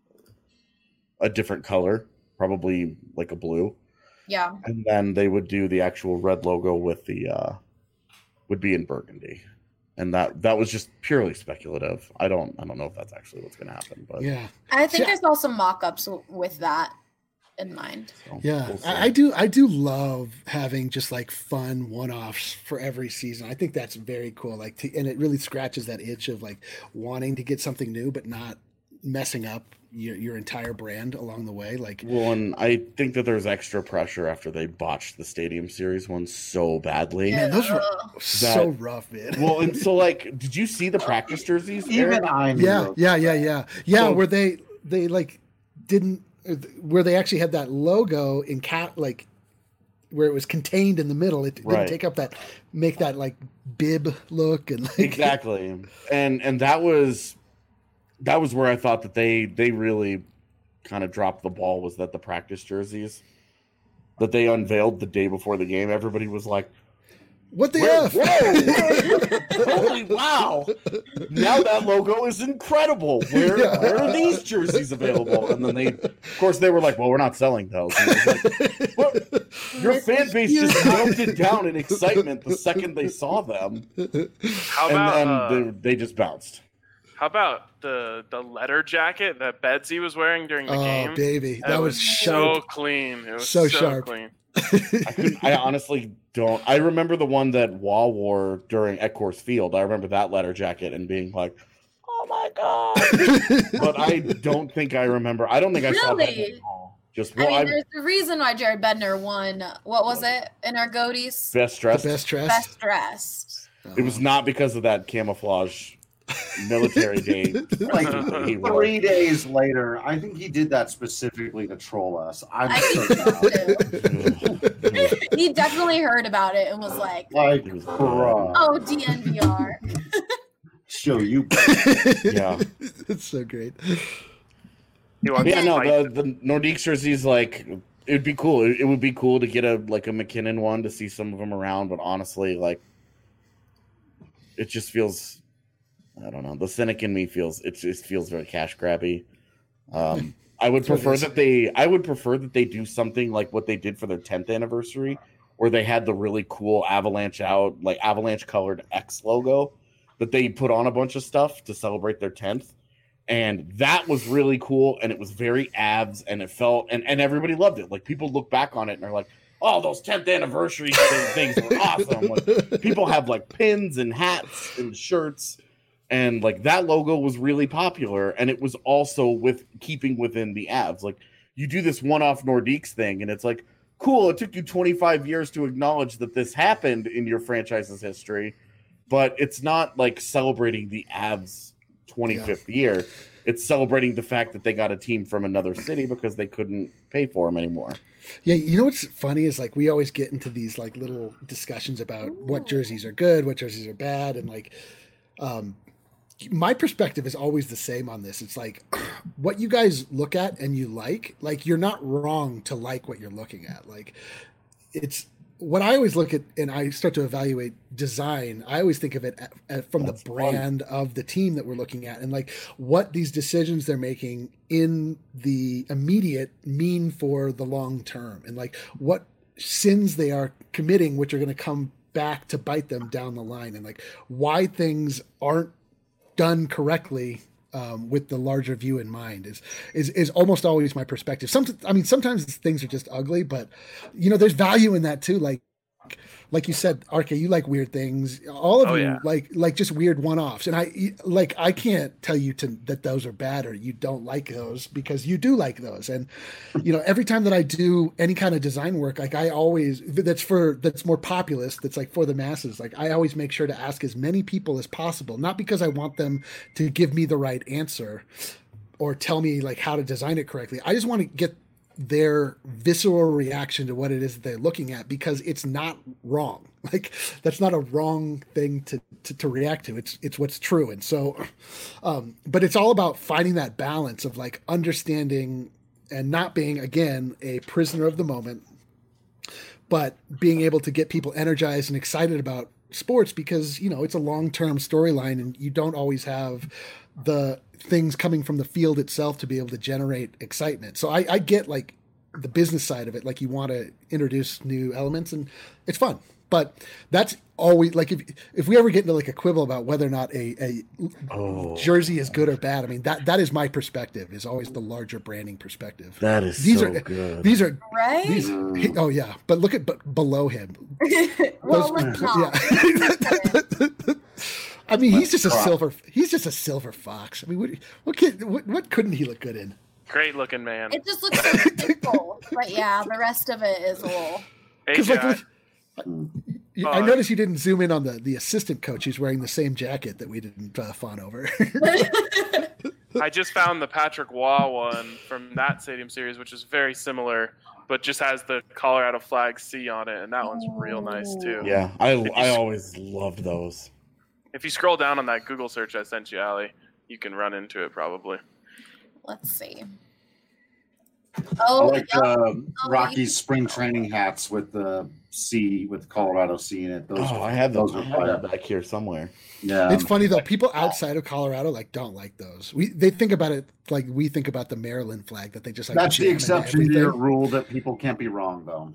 a different color, probably like a blue. Yeah. And then they would do the actual red logo with the would be in burgundy. And that was just purely speculative. I don't know if that's actually what's going to happen, but yeah, I think I saw some mock-ups with that in mind. So yeah, we'll I do love having just like fun one-offs for every season. I think that's very cool. And it really scratches that itch of like wanting to get something new, but not messing up your entire brand along the way. And I think that there's extra pressure after they botched the Stadium Series one so badly. Man, those were so rough, man. Well, and so did you see the practice jerseys? Even I knew. Yeah. So, where they didn't, where they actually had that logo in where it was contained in the middle. It didn't take up make that like bib look and exactly. And that was where I thought that they really kind of dropped the ball, was that the practice jerseys that they unveiled the day before the game, everybody was like, what the F? Whoa, holy wow. Now that logo is incredible. Where are these jerseys available? And then they were like, well, we're not selling those. Like, your fan base just melted down in excitement the second they saw them. How about and then they just bounced. How about the letter jacket that Bedsy was wearing during the game? Oh, baby. That was so sharp. clean. It was so sharp. Clean. I honestly don't. I remember the one that Wall wore during at Coors Field. I remember that letter jacket and being like, oh my God. But I don't think I remember. I don't think I saw that at all. There's a reason why Jared Bednar won. What was it in our goatees? Best dressed. Best dressed. Best dressed. It was not because of that camouflage military day. 3 days later, I think he did that specifically to troll us. He definitely heard about it and was like, bruh. Oh, DNVR. Show you. Yeah. It's so great. The Nordiques jerseys, it'd be cool. It would be cool to get a McKinnon one, to see some of them around, but honestly, it just feels, I don't know. The cynic in me feels very cash grabby. I would prefer that they do something like what they did for their 10th anniversary, where they had the really cool Avalanche colored X logo that they put on a bunch of stuff to celebrate their 10th. And that was really cool, and it was very Avs, and it felt and everybody loved it. Like, people look back on it and they're like, oh, those 10th anniversary things were awesome. People have pins and hats and shirts. And that logo was really popular, and it was also keeping within the Avs. You do this one-off Nordiques thing, and it's cool. It took you 25 years to acknowledge that this happened in your franchise's history, but it's not celebrating the Avs' 25th year. it's celebrating the fact that they got a team from another city because they couldn't pay for them anymore. Yeah, you know what's funny is like we always get into these like little discussions about what jerseys are good, what jerseys are bad, and like my perspective is always the same on this. It's like what you guys look at and you like you're not wrong to like what you're looking at. Like it's what I always look at, and I start to evaluate design. I always think of it from the brand of the team that we're looking at, and like what these decisions they're making in the immediate mean for the long term, and like what sins they are committing, which are going to come back to bite them down the line, and like why things aren't done correctly. With the larger view in mind is almost always my perspective. Sometimes things are just ugly, but you know, there's value in that too. Like you said, RK, you like weird things. All of you like just weird one-offs. And I can't tell you that those are bad or you don't like those, because you do like those. And you know, every time that I do any kind of design work, like I always that's more populist, that's like for the masses. Like I always make sure to ask as many people as possible, not because I want them to give me the right answer or tell me like how to design it correctly. I just want to get their visceral reaction to what it is that they're looking at, because it's not wrong. Like that's not a wrong thing to react to. It's what's true. And so, but it's all about finding that balance of like understanding and not being, again, a prisoner of the moment, but being able to get people energized and excited about sports, because, you know, it's a long-term storyline and you don't always have the things coming from the field itself to be able to generate excitement. So I get like the business side of it. Like you want to introduce new elements and it's fun, but that's always like, if we ever get into like a quibble about whether or not a jersey is good or bad, I mean, that is my perspective, is always the larger branding perspective. That is good. These are right. Oh yeah. But look at below him. Well, let's not. I mean, he's just a silver fox. I mean, what couldn't he look good in? Great looking man. It just looks so simple, but yeah, the rest of it is a little. Because I noticed you didn't zoom in on the assistant coach. He's wearing the same jacket that we didn't fawn over. I just found the Patrick Waugh one from that Stadium Series, which is very similar, but just has the Colorado flag C on it, and that one's real nice too. Yeah, I always loved those. If you scroll down on that Google search I sent you, Allie, you can run into it probably. Let's see. I like Rocky's spring training hats with the C, with Colorado C in it. I have those back here somewhere. Yeah, it's funny though. People outside of Colorado don't like those. They think about it like we think about the Maryland flag, that they just like. That's the exception to your rule that people can't be wrong though.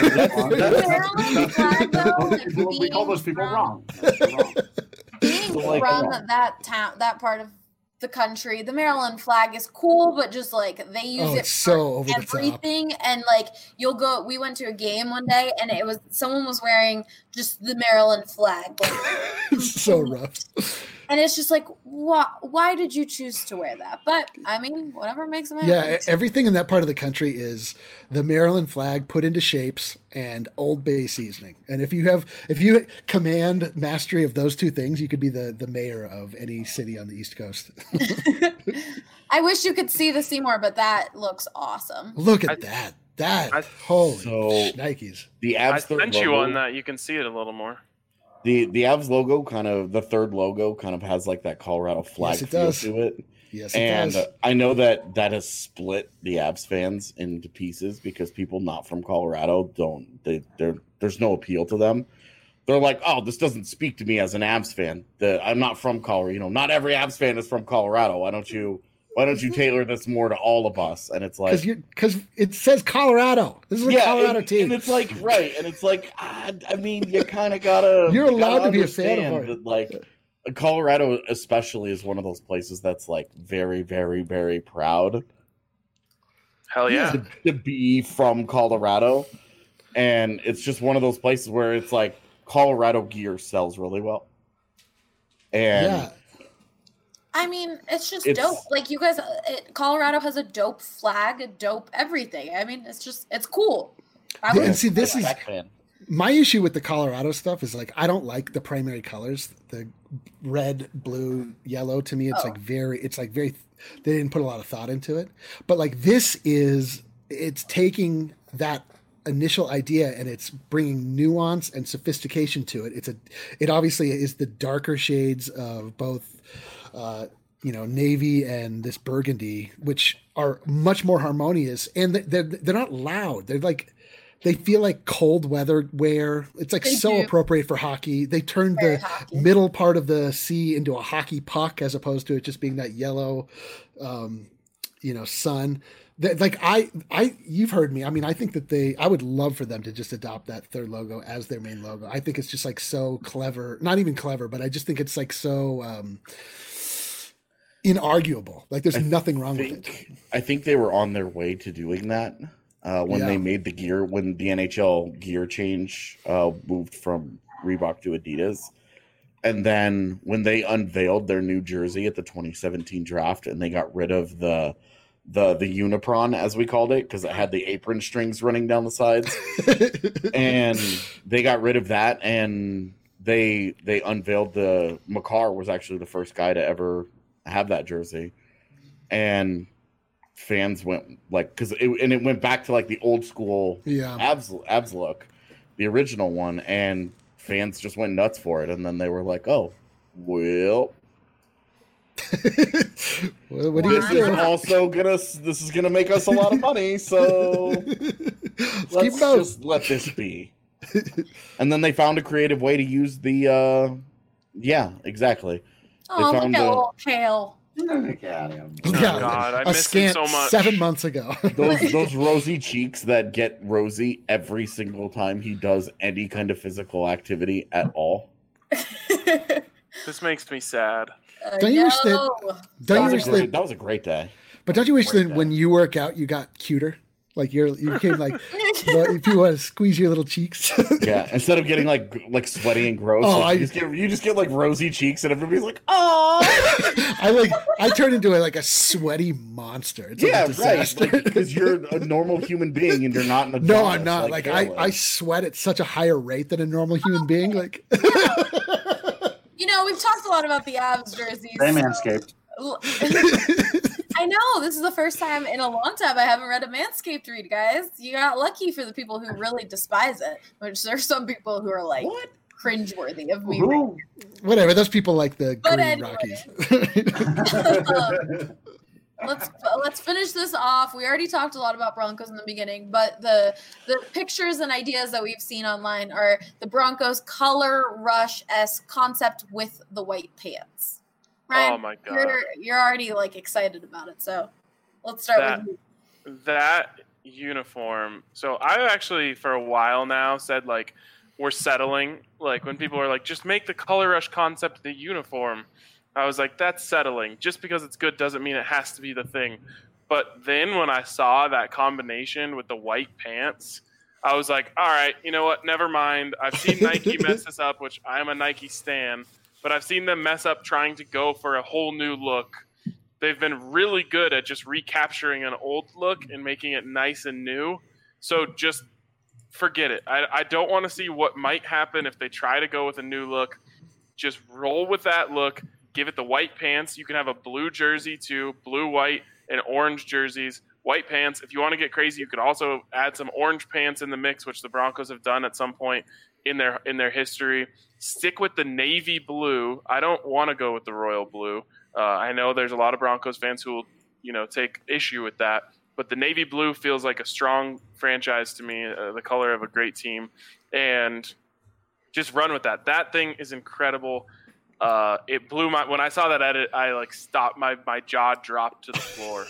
We call those people wrong. Being from that town, that part of the country, the Maryland flag is cool, but just like they use it for everything. And like we went to a game one day and it was someone was wearing just the Maryland flag. Like, so rough. And it's just like, why did you choose to wear that? But I mean, whatever makes them happy. Yeah, everything in that part of the country is the Maryland flag put into shapes and Old Bay seasoning. And if you command mastery of those two things, you could be the mayor of any city on the East Coast. I wish you could see the Seymour, but that looks awesome. Look at that. Holy shnikes. The Avs I sent you on that. You can see it a little more. The Avs logo, kind of the third logo, kind of has like that Colorado flag feel to it. Yes, it does. I know that has split the Avs fans into pieces, because people not from Colorado there's no appeal to them. They're like, oh, this doesn't speak to me as an Avs fan. I'm not from Colorado. You know, not every Avs fan is from Colorado. Why don't you tailor this more to all of us? And it's like, because it says Colorado. This is a Colorado team, and it's like right, and it's like, I mean, you kind of gotta. You're allowed to be a fan of it. Like, Colorado, especially, is one of those places that's like very, very, very proud. Hell yeah, to be from Colorado, and it's just one of those places where it's like Colorado gear sells really well, and. Yeah. I mean, it's dope. Like you guys, Colorado has a dope flag, a dope everything. I mean, it's cool. And see, this is My issue with the Colorado stuff is like I don't like the primary colors, the red, blue, yellow. To me, it's very. They didn't put a lot of thought into it, but like it's taking that initial idea and it's bringing nuance and sophistication to it. It obviously is the darker shades of both, navy and this burgundy, which are much more harmonious, and they're not loud. They feel like cold weather wear. It's like appropriate for hockey. They turned the middle part of the C into a hockey puck as opposed to it just being that yellow, sun. You've heard me. I mean, I think that I would love for them to just adopt that third logo as their main logo. I think it's just like so clever, not even clever, but I just think it's like so inarguable. Like there's nothing wrong with it. I think they were on their way to doing that. When they made the gear, when the NHL gear change moved from Reebok to Adidas. And then when they unveiled their new jersey at the 2017 draft and they got rid of the Unipron, as we called it, because it had the apron strings running down the sides. And they got rid of that and they unveiled the Makar was actually the first guy to ever have that jersey. And fans went like it went back to like the old school Avs look, the original one, and fans just went nuts for it. And then they were like, "Oh, well, what do you this is gonna make us a lot of money, so let's just let this be." And then they found a creative way to use the exactly. Oh, look at little Kale. Look at him. God, I miss him so much. 7 months ago. those rosy cheeks that get rosy every single time he does any kind of physical activity at all. This makes me sad. Don't you wish that was a great day. But don't you wish that when you work out, you got cuter? Like you became like if you want to squeeze your little cheeks. Yeah, instead of getting like sweaty and gross, you just get like rosy cheeks, and everybody's like, "Oh!" I turn into a sweaty monster. It's like a disaster. Right? Because you're a normal human being, and you're not an adult. No, I'm not. Like I sweat at such a higher rate than a normal human being. Like, we've talked a lot about the Avs jerseys. They Manscaped. I know. This is the first time in a long time I haven't read a Manscaped read, guys. You got lucky for the people who really despise it, which there's some people who are like cringeworthy of me. Whatever. Those people like the but Green anyway. Rockies. Let's finish this off. We already talked a lot about Broncos in the beginning, but the pictures and ideas that we've seen online are the Broncos color rush-esque concept with the white pants. Ryan, oh my God. You're already excited about it. So let's start with you. That uniform. So I actually for a while now said we're settling. Like when people are just make the color rush concept the uniform. I was like, that's settling. Just because it's good doesn't mean it has to be the thing. But then when I saw that combination with the white pants, I was like, all right, you know what? Never mind. I've seen Nike mess this up, which I am a Nike stan. But I've seen them mess up trying to go for a whole new look. They've been really good at just recapturing an old look and making it nice and new. So just forget it. I don't want to see what might happen if they try to go with a new look. Just roll with that look. Give it the white pants. You can have a blue jersey too, blue, white, and orange jerseys. White pants. If you want to get crazy, you could also add some orange pants in the mix, which the Broncos have done at some point in their history. Stick with the navy blue. I don't want to go with the royal blue. I know there's a lot of Broncos fans who will, take issue with that. But the navy blue feels like a strong franchise to me, the color of a great team. And just run with that. That thing is incredible. It blew when I saw that edit, I stopped, my jaw dropped to the floor.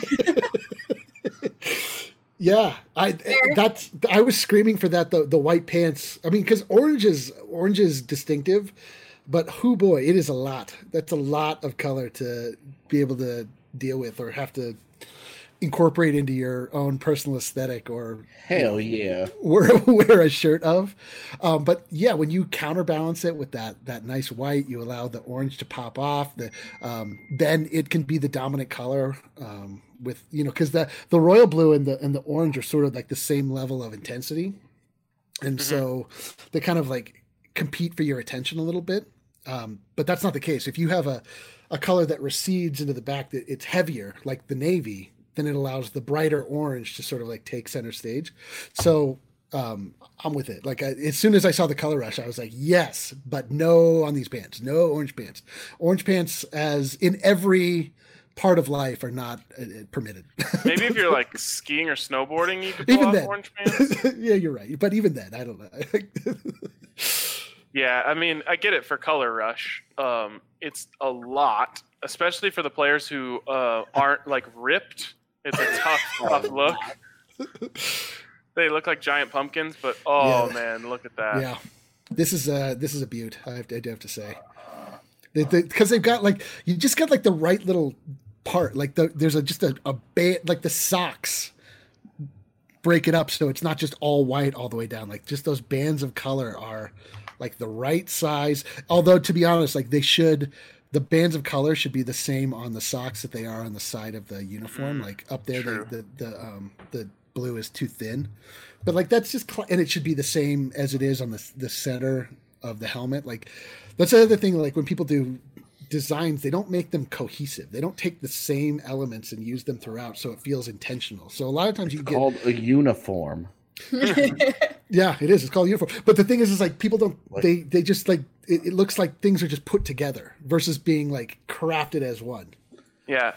Yeah, I was screaming for that, the white pants. I mean, because orange is distinctive, but boy, it is a lot. That's a lot of color to be able to deal with or have to incorporate into your own personal aesthetic or hell yeah wear a shirt of. But yeah, when you counterbalance it with that nice white, you allow the orange to pop off. Then it can be the dominant color. With because the royal blue and the orange are sort of like the same level of intensity. And so they kind of like compete for your attention a little bit. But that's not the case. If you have a color that recedes into the back, that it's heavier, like the navy, then it allows the brighter orange to sort of like take center stage. So I'm with it. Like as soon as I saw the color rush, I was like, yes, but no on these pants, no orange pants. Orange pants, as in every part of life, are not permitted. Maybe if you're like skiing or snowboarding, you could pull off orange pants. Yeah, you're right. But even then, I don't know. Yeah, I mean, I get it for color rush. It's a lot, especially for the players who aren't like ripped. It's a tough look. They look like giant pumpkins, but man, look at that. Yeah, this is a beaut. I do have to say, because they've got like, you just got like the right little part. Like there's just a band, like the socks break it up so it's not just all white all the way down. Like just those bands of color are like the right size. Although to be honest, like the bands of color should be the same on the socks that they are on the side of the uniform. Like up there, the blue is too thin, but like that's just and it should be the same as it is on the center of the helmet. Like that's the other thing. Like when people do designs, they don't make them cohesive. They don't take the same elements and use them throughout, so it feels intentional. So a lot of times you get called a uniform. Yeah, it is. It's called a uniform. But the thing is like people don't. They just like it looks like things are just put together versus being like crafted as one. Yeah.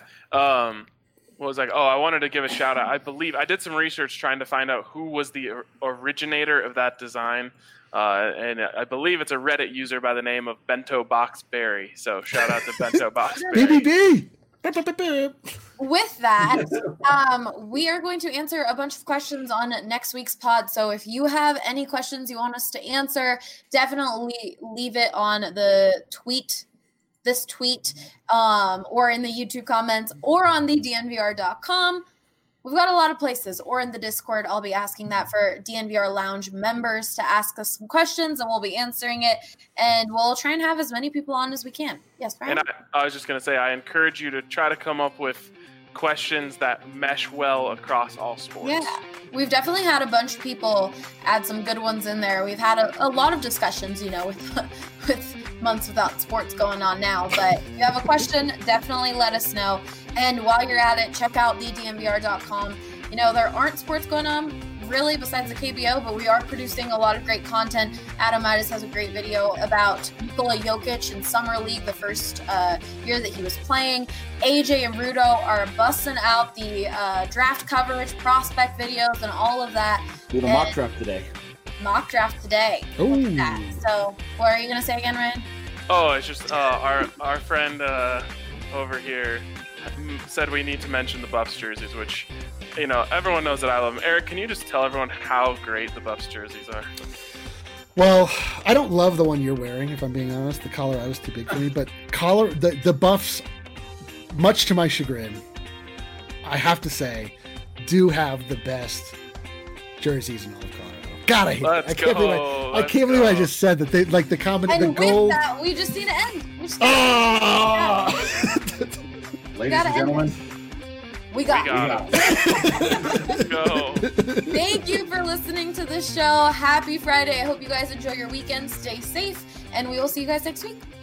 Was like, I wanted to give a shout out. I believe I did some research trying to find out who was the originator of that design, and I believe it's a Reddit user by the name of Bento Box Berry. So shout out to Bento Box Berry. BBB. With that, we are going to answer a bunch of questions on next week's pod. So if you have any questions you want us to answer, definitely leave it on the this tweet, or in the YouTube comments, or on the DNVR.com. We've got a lot of places, or in the Discord. I'll be asking that for DNVR Lounge members to ask us some questions, and we'll be answering it. And we'll try and have as many people on as we can. Yes, Ryan? And I was just going to say, I encourage you to try to come up with questions that mesh well across all sports. Yeah, we've definitely had a bunch of people add some good ones in there. We've had a lot of discussions, with months without sports going on now. But if you have a question, definitely let us know. And while you're at it, check out thednvr.com. There aren't sports going on really besides the KBO, but we are producing a lot of great content. Adam Midas has a great video about Nikola Jokic in Summer League, the first year that he was playing. AJ and Rudo are busting out the draft coverage, prospect videos, and all of that. Do the mock draft today. Mock draft today. Look at that. So what are you going to say again, Ryan? Oh, it's just our friend over here said we need to mention the Buffs jerseys, which, everyone knows that I love them. Eric, can you just tell everyone how great the Buffs jerseys are? Well, I don't love the one you're wearing, if I'm being honest. The collar was too big for me, but the Buffs, much to my chagrin, I have to say, do have the best jerseys in all of Colorado. God, I hate it. I can't believe I just said that. They like the combination, the gold. And with that, we just need to end. Ladies and gentlemen, we got it. Let's go. Thank you for listening to this show. Happy Friday. I hope you guys enjoy your weekend. Stay safe, and we will see you guys next week.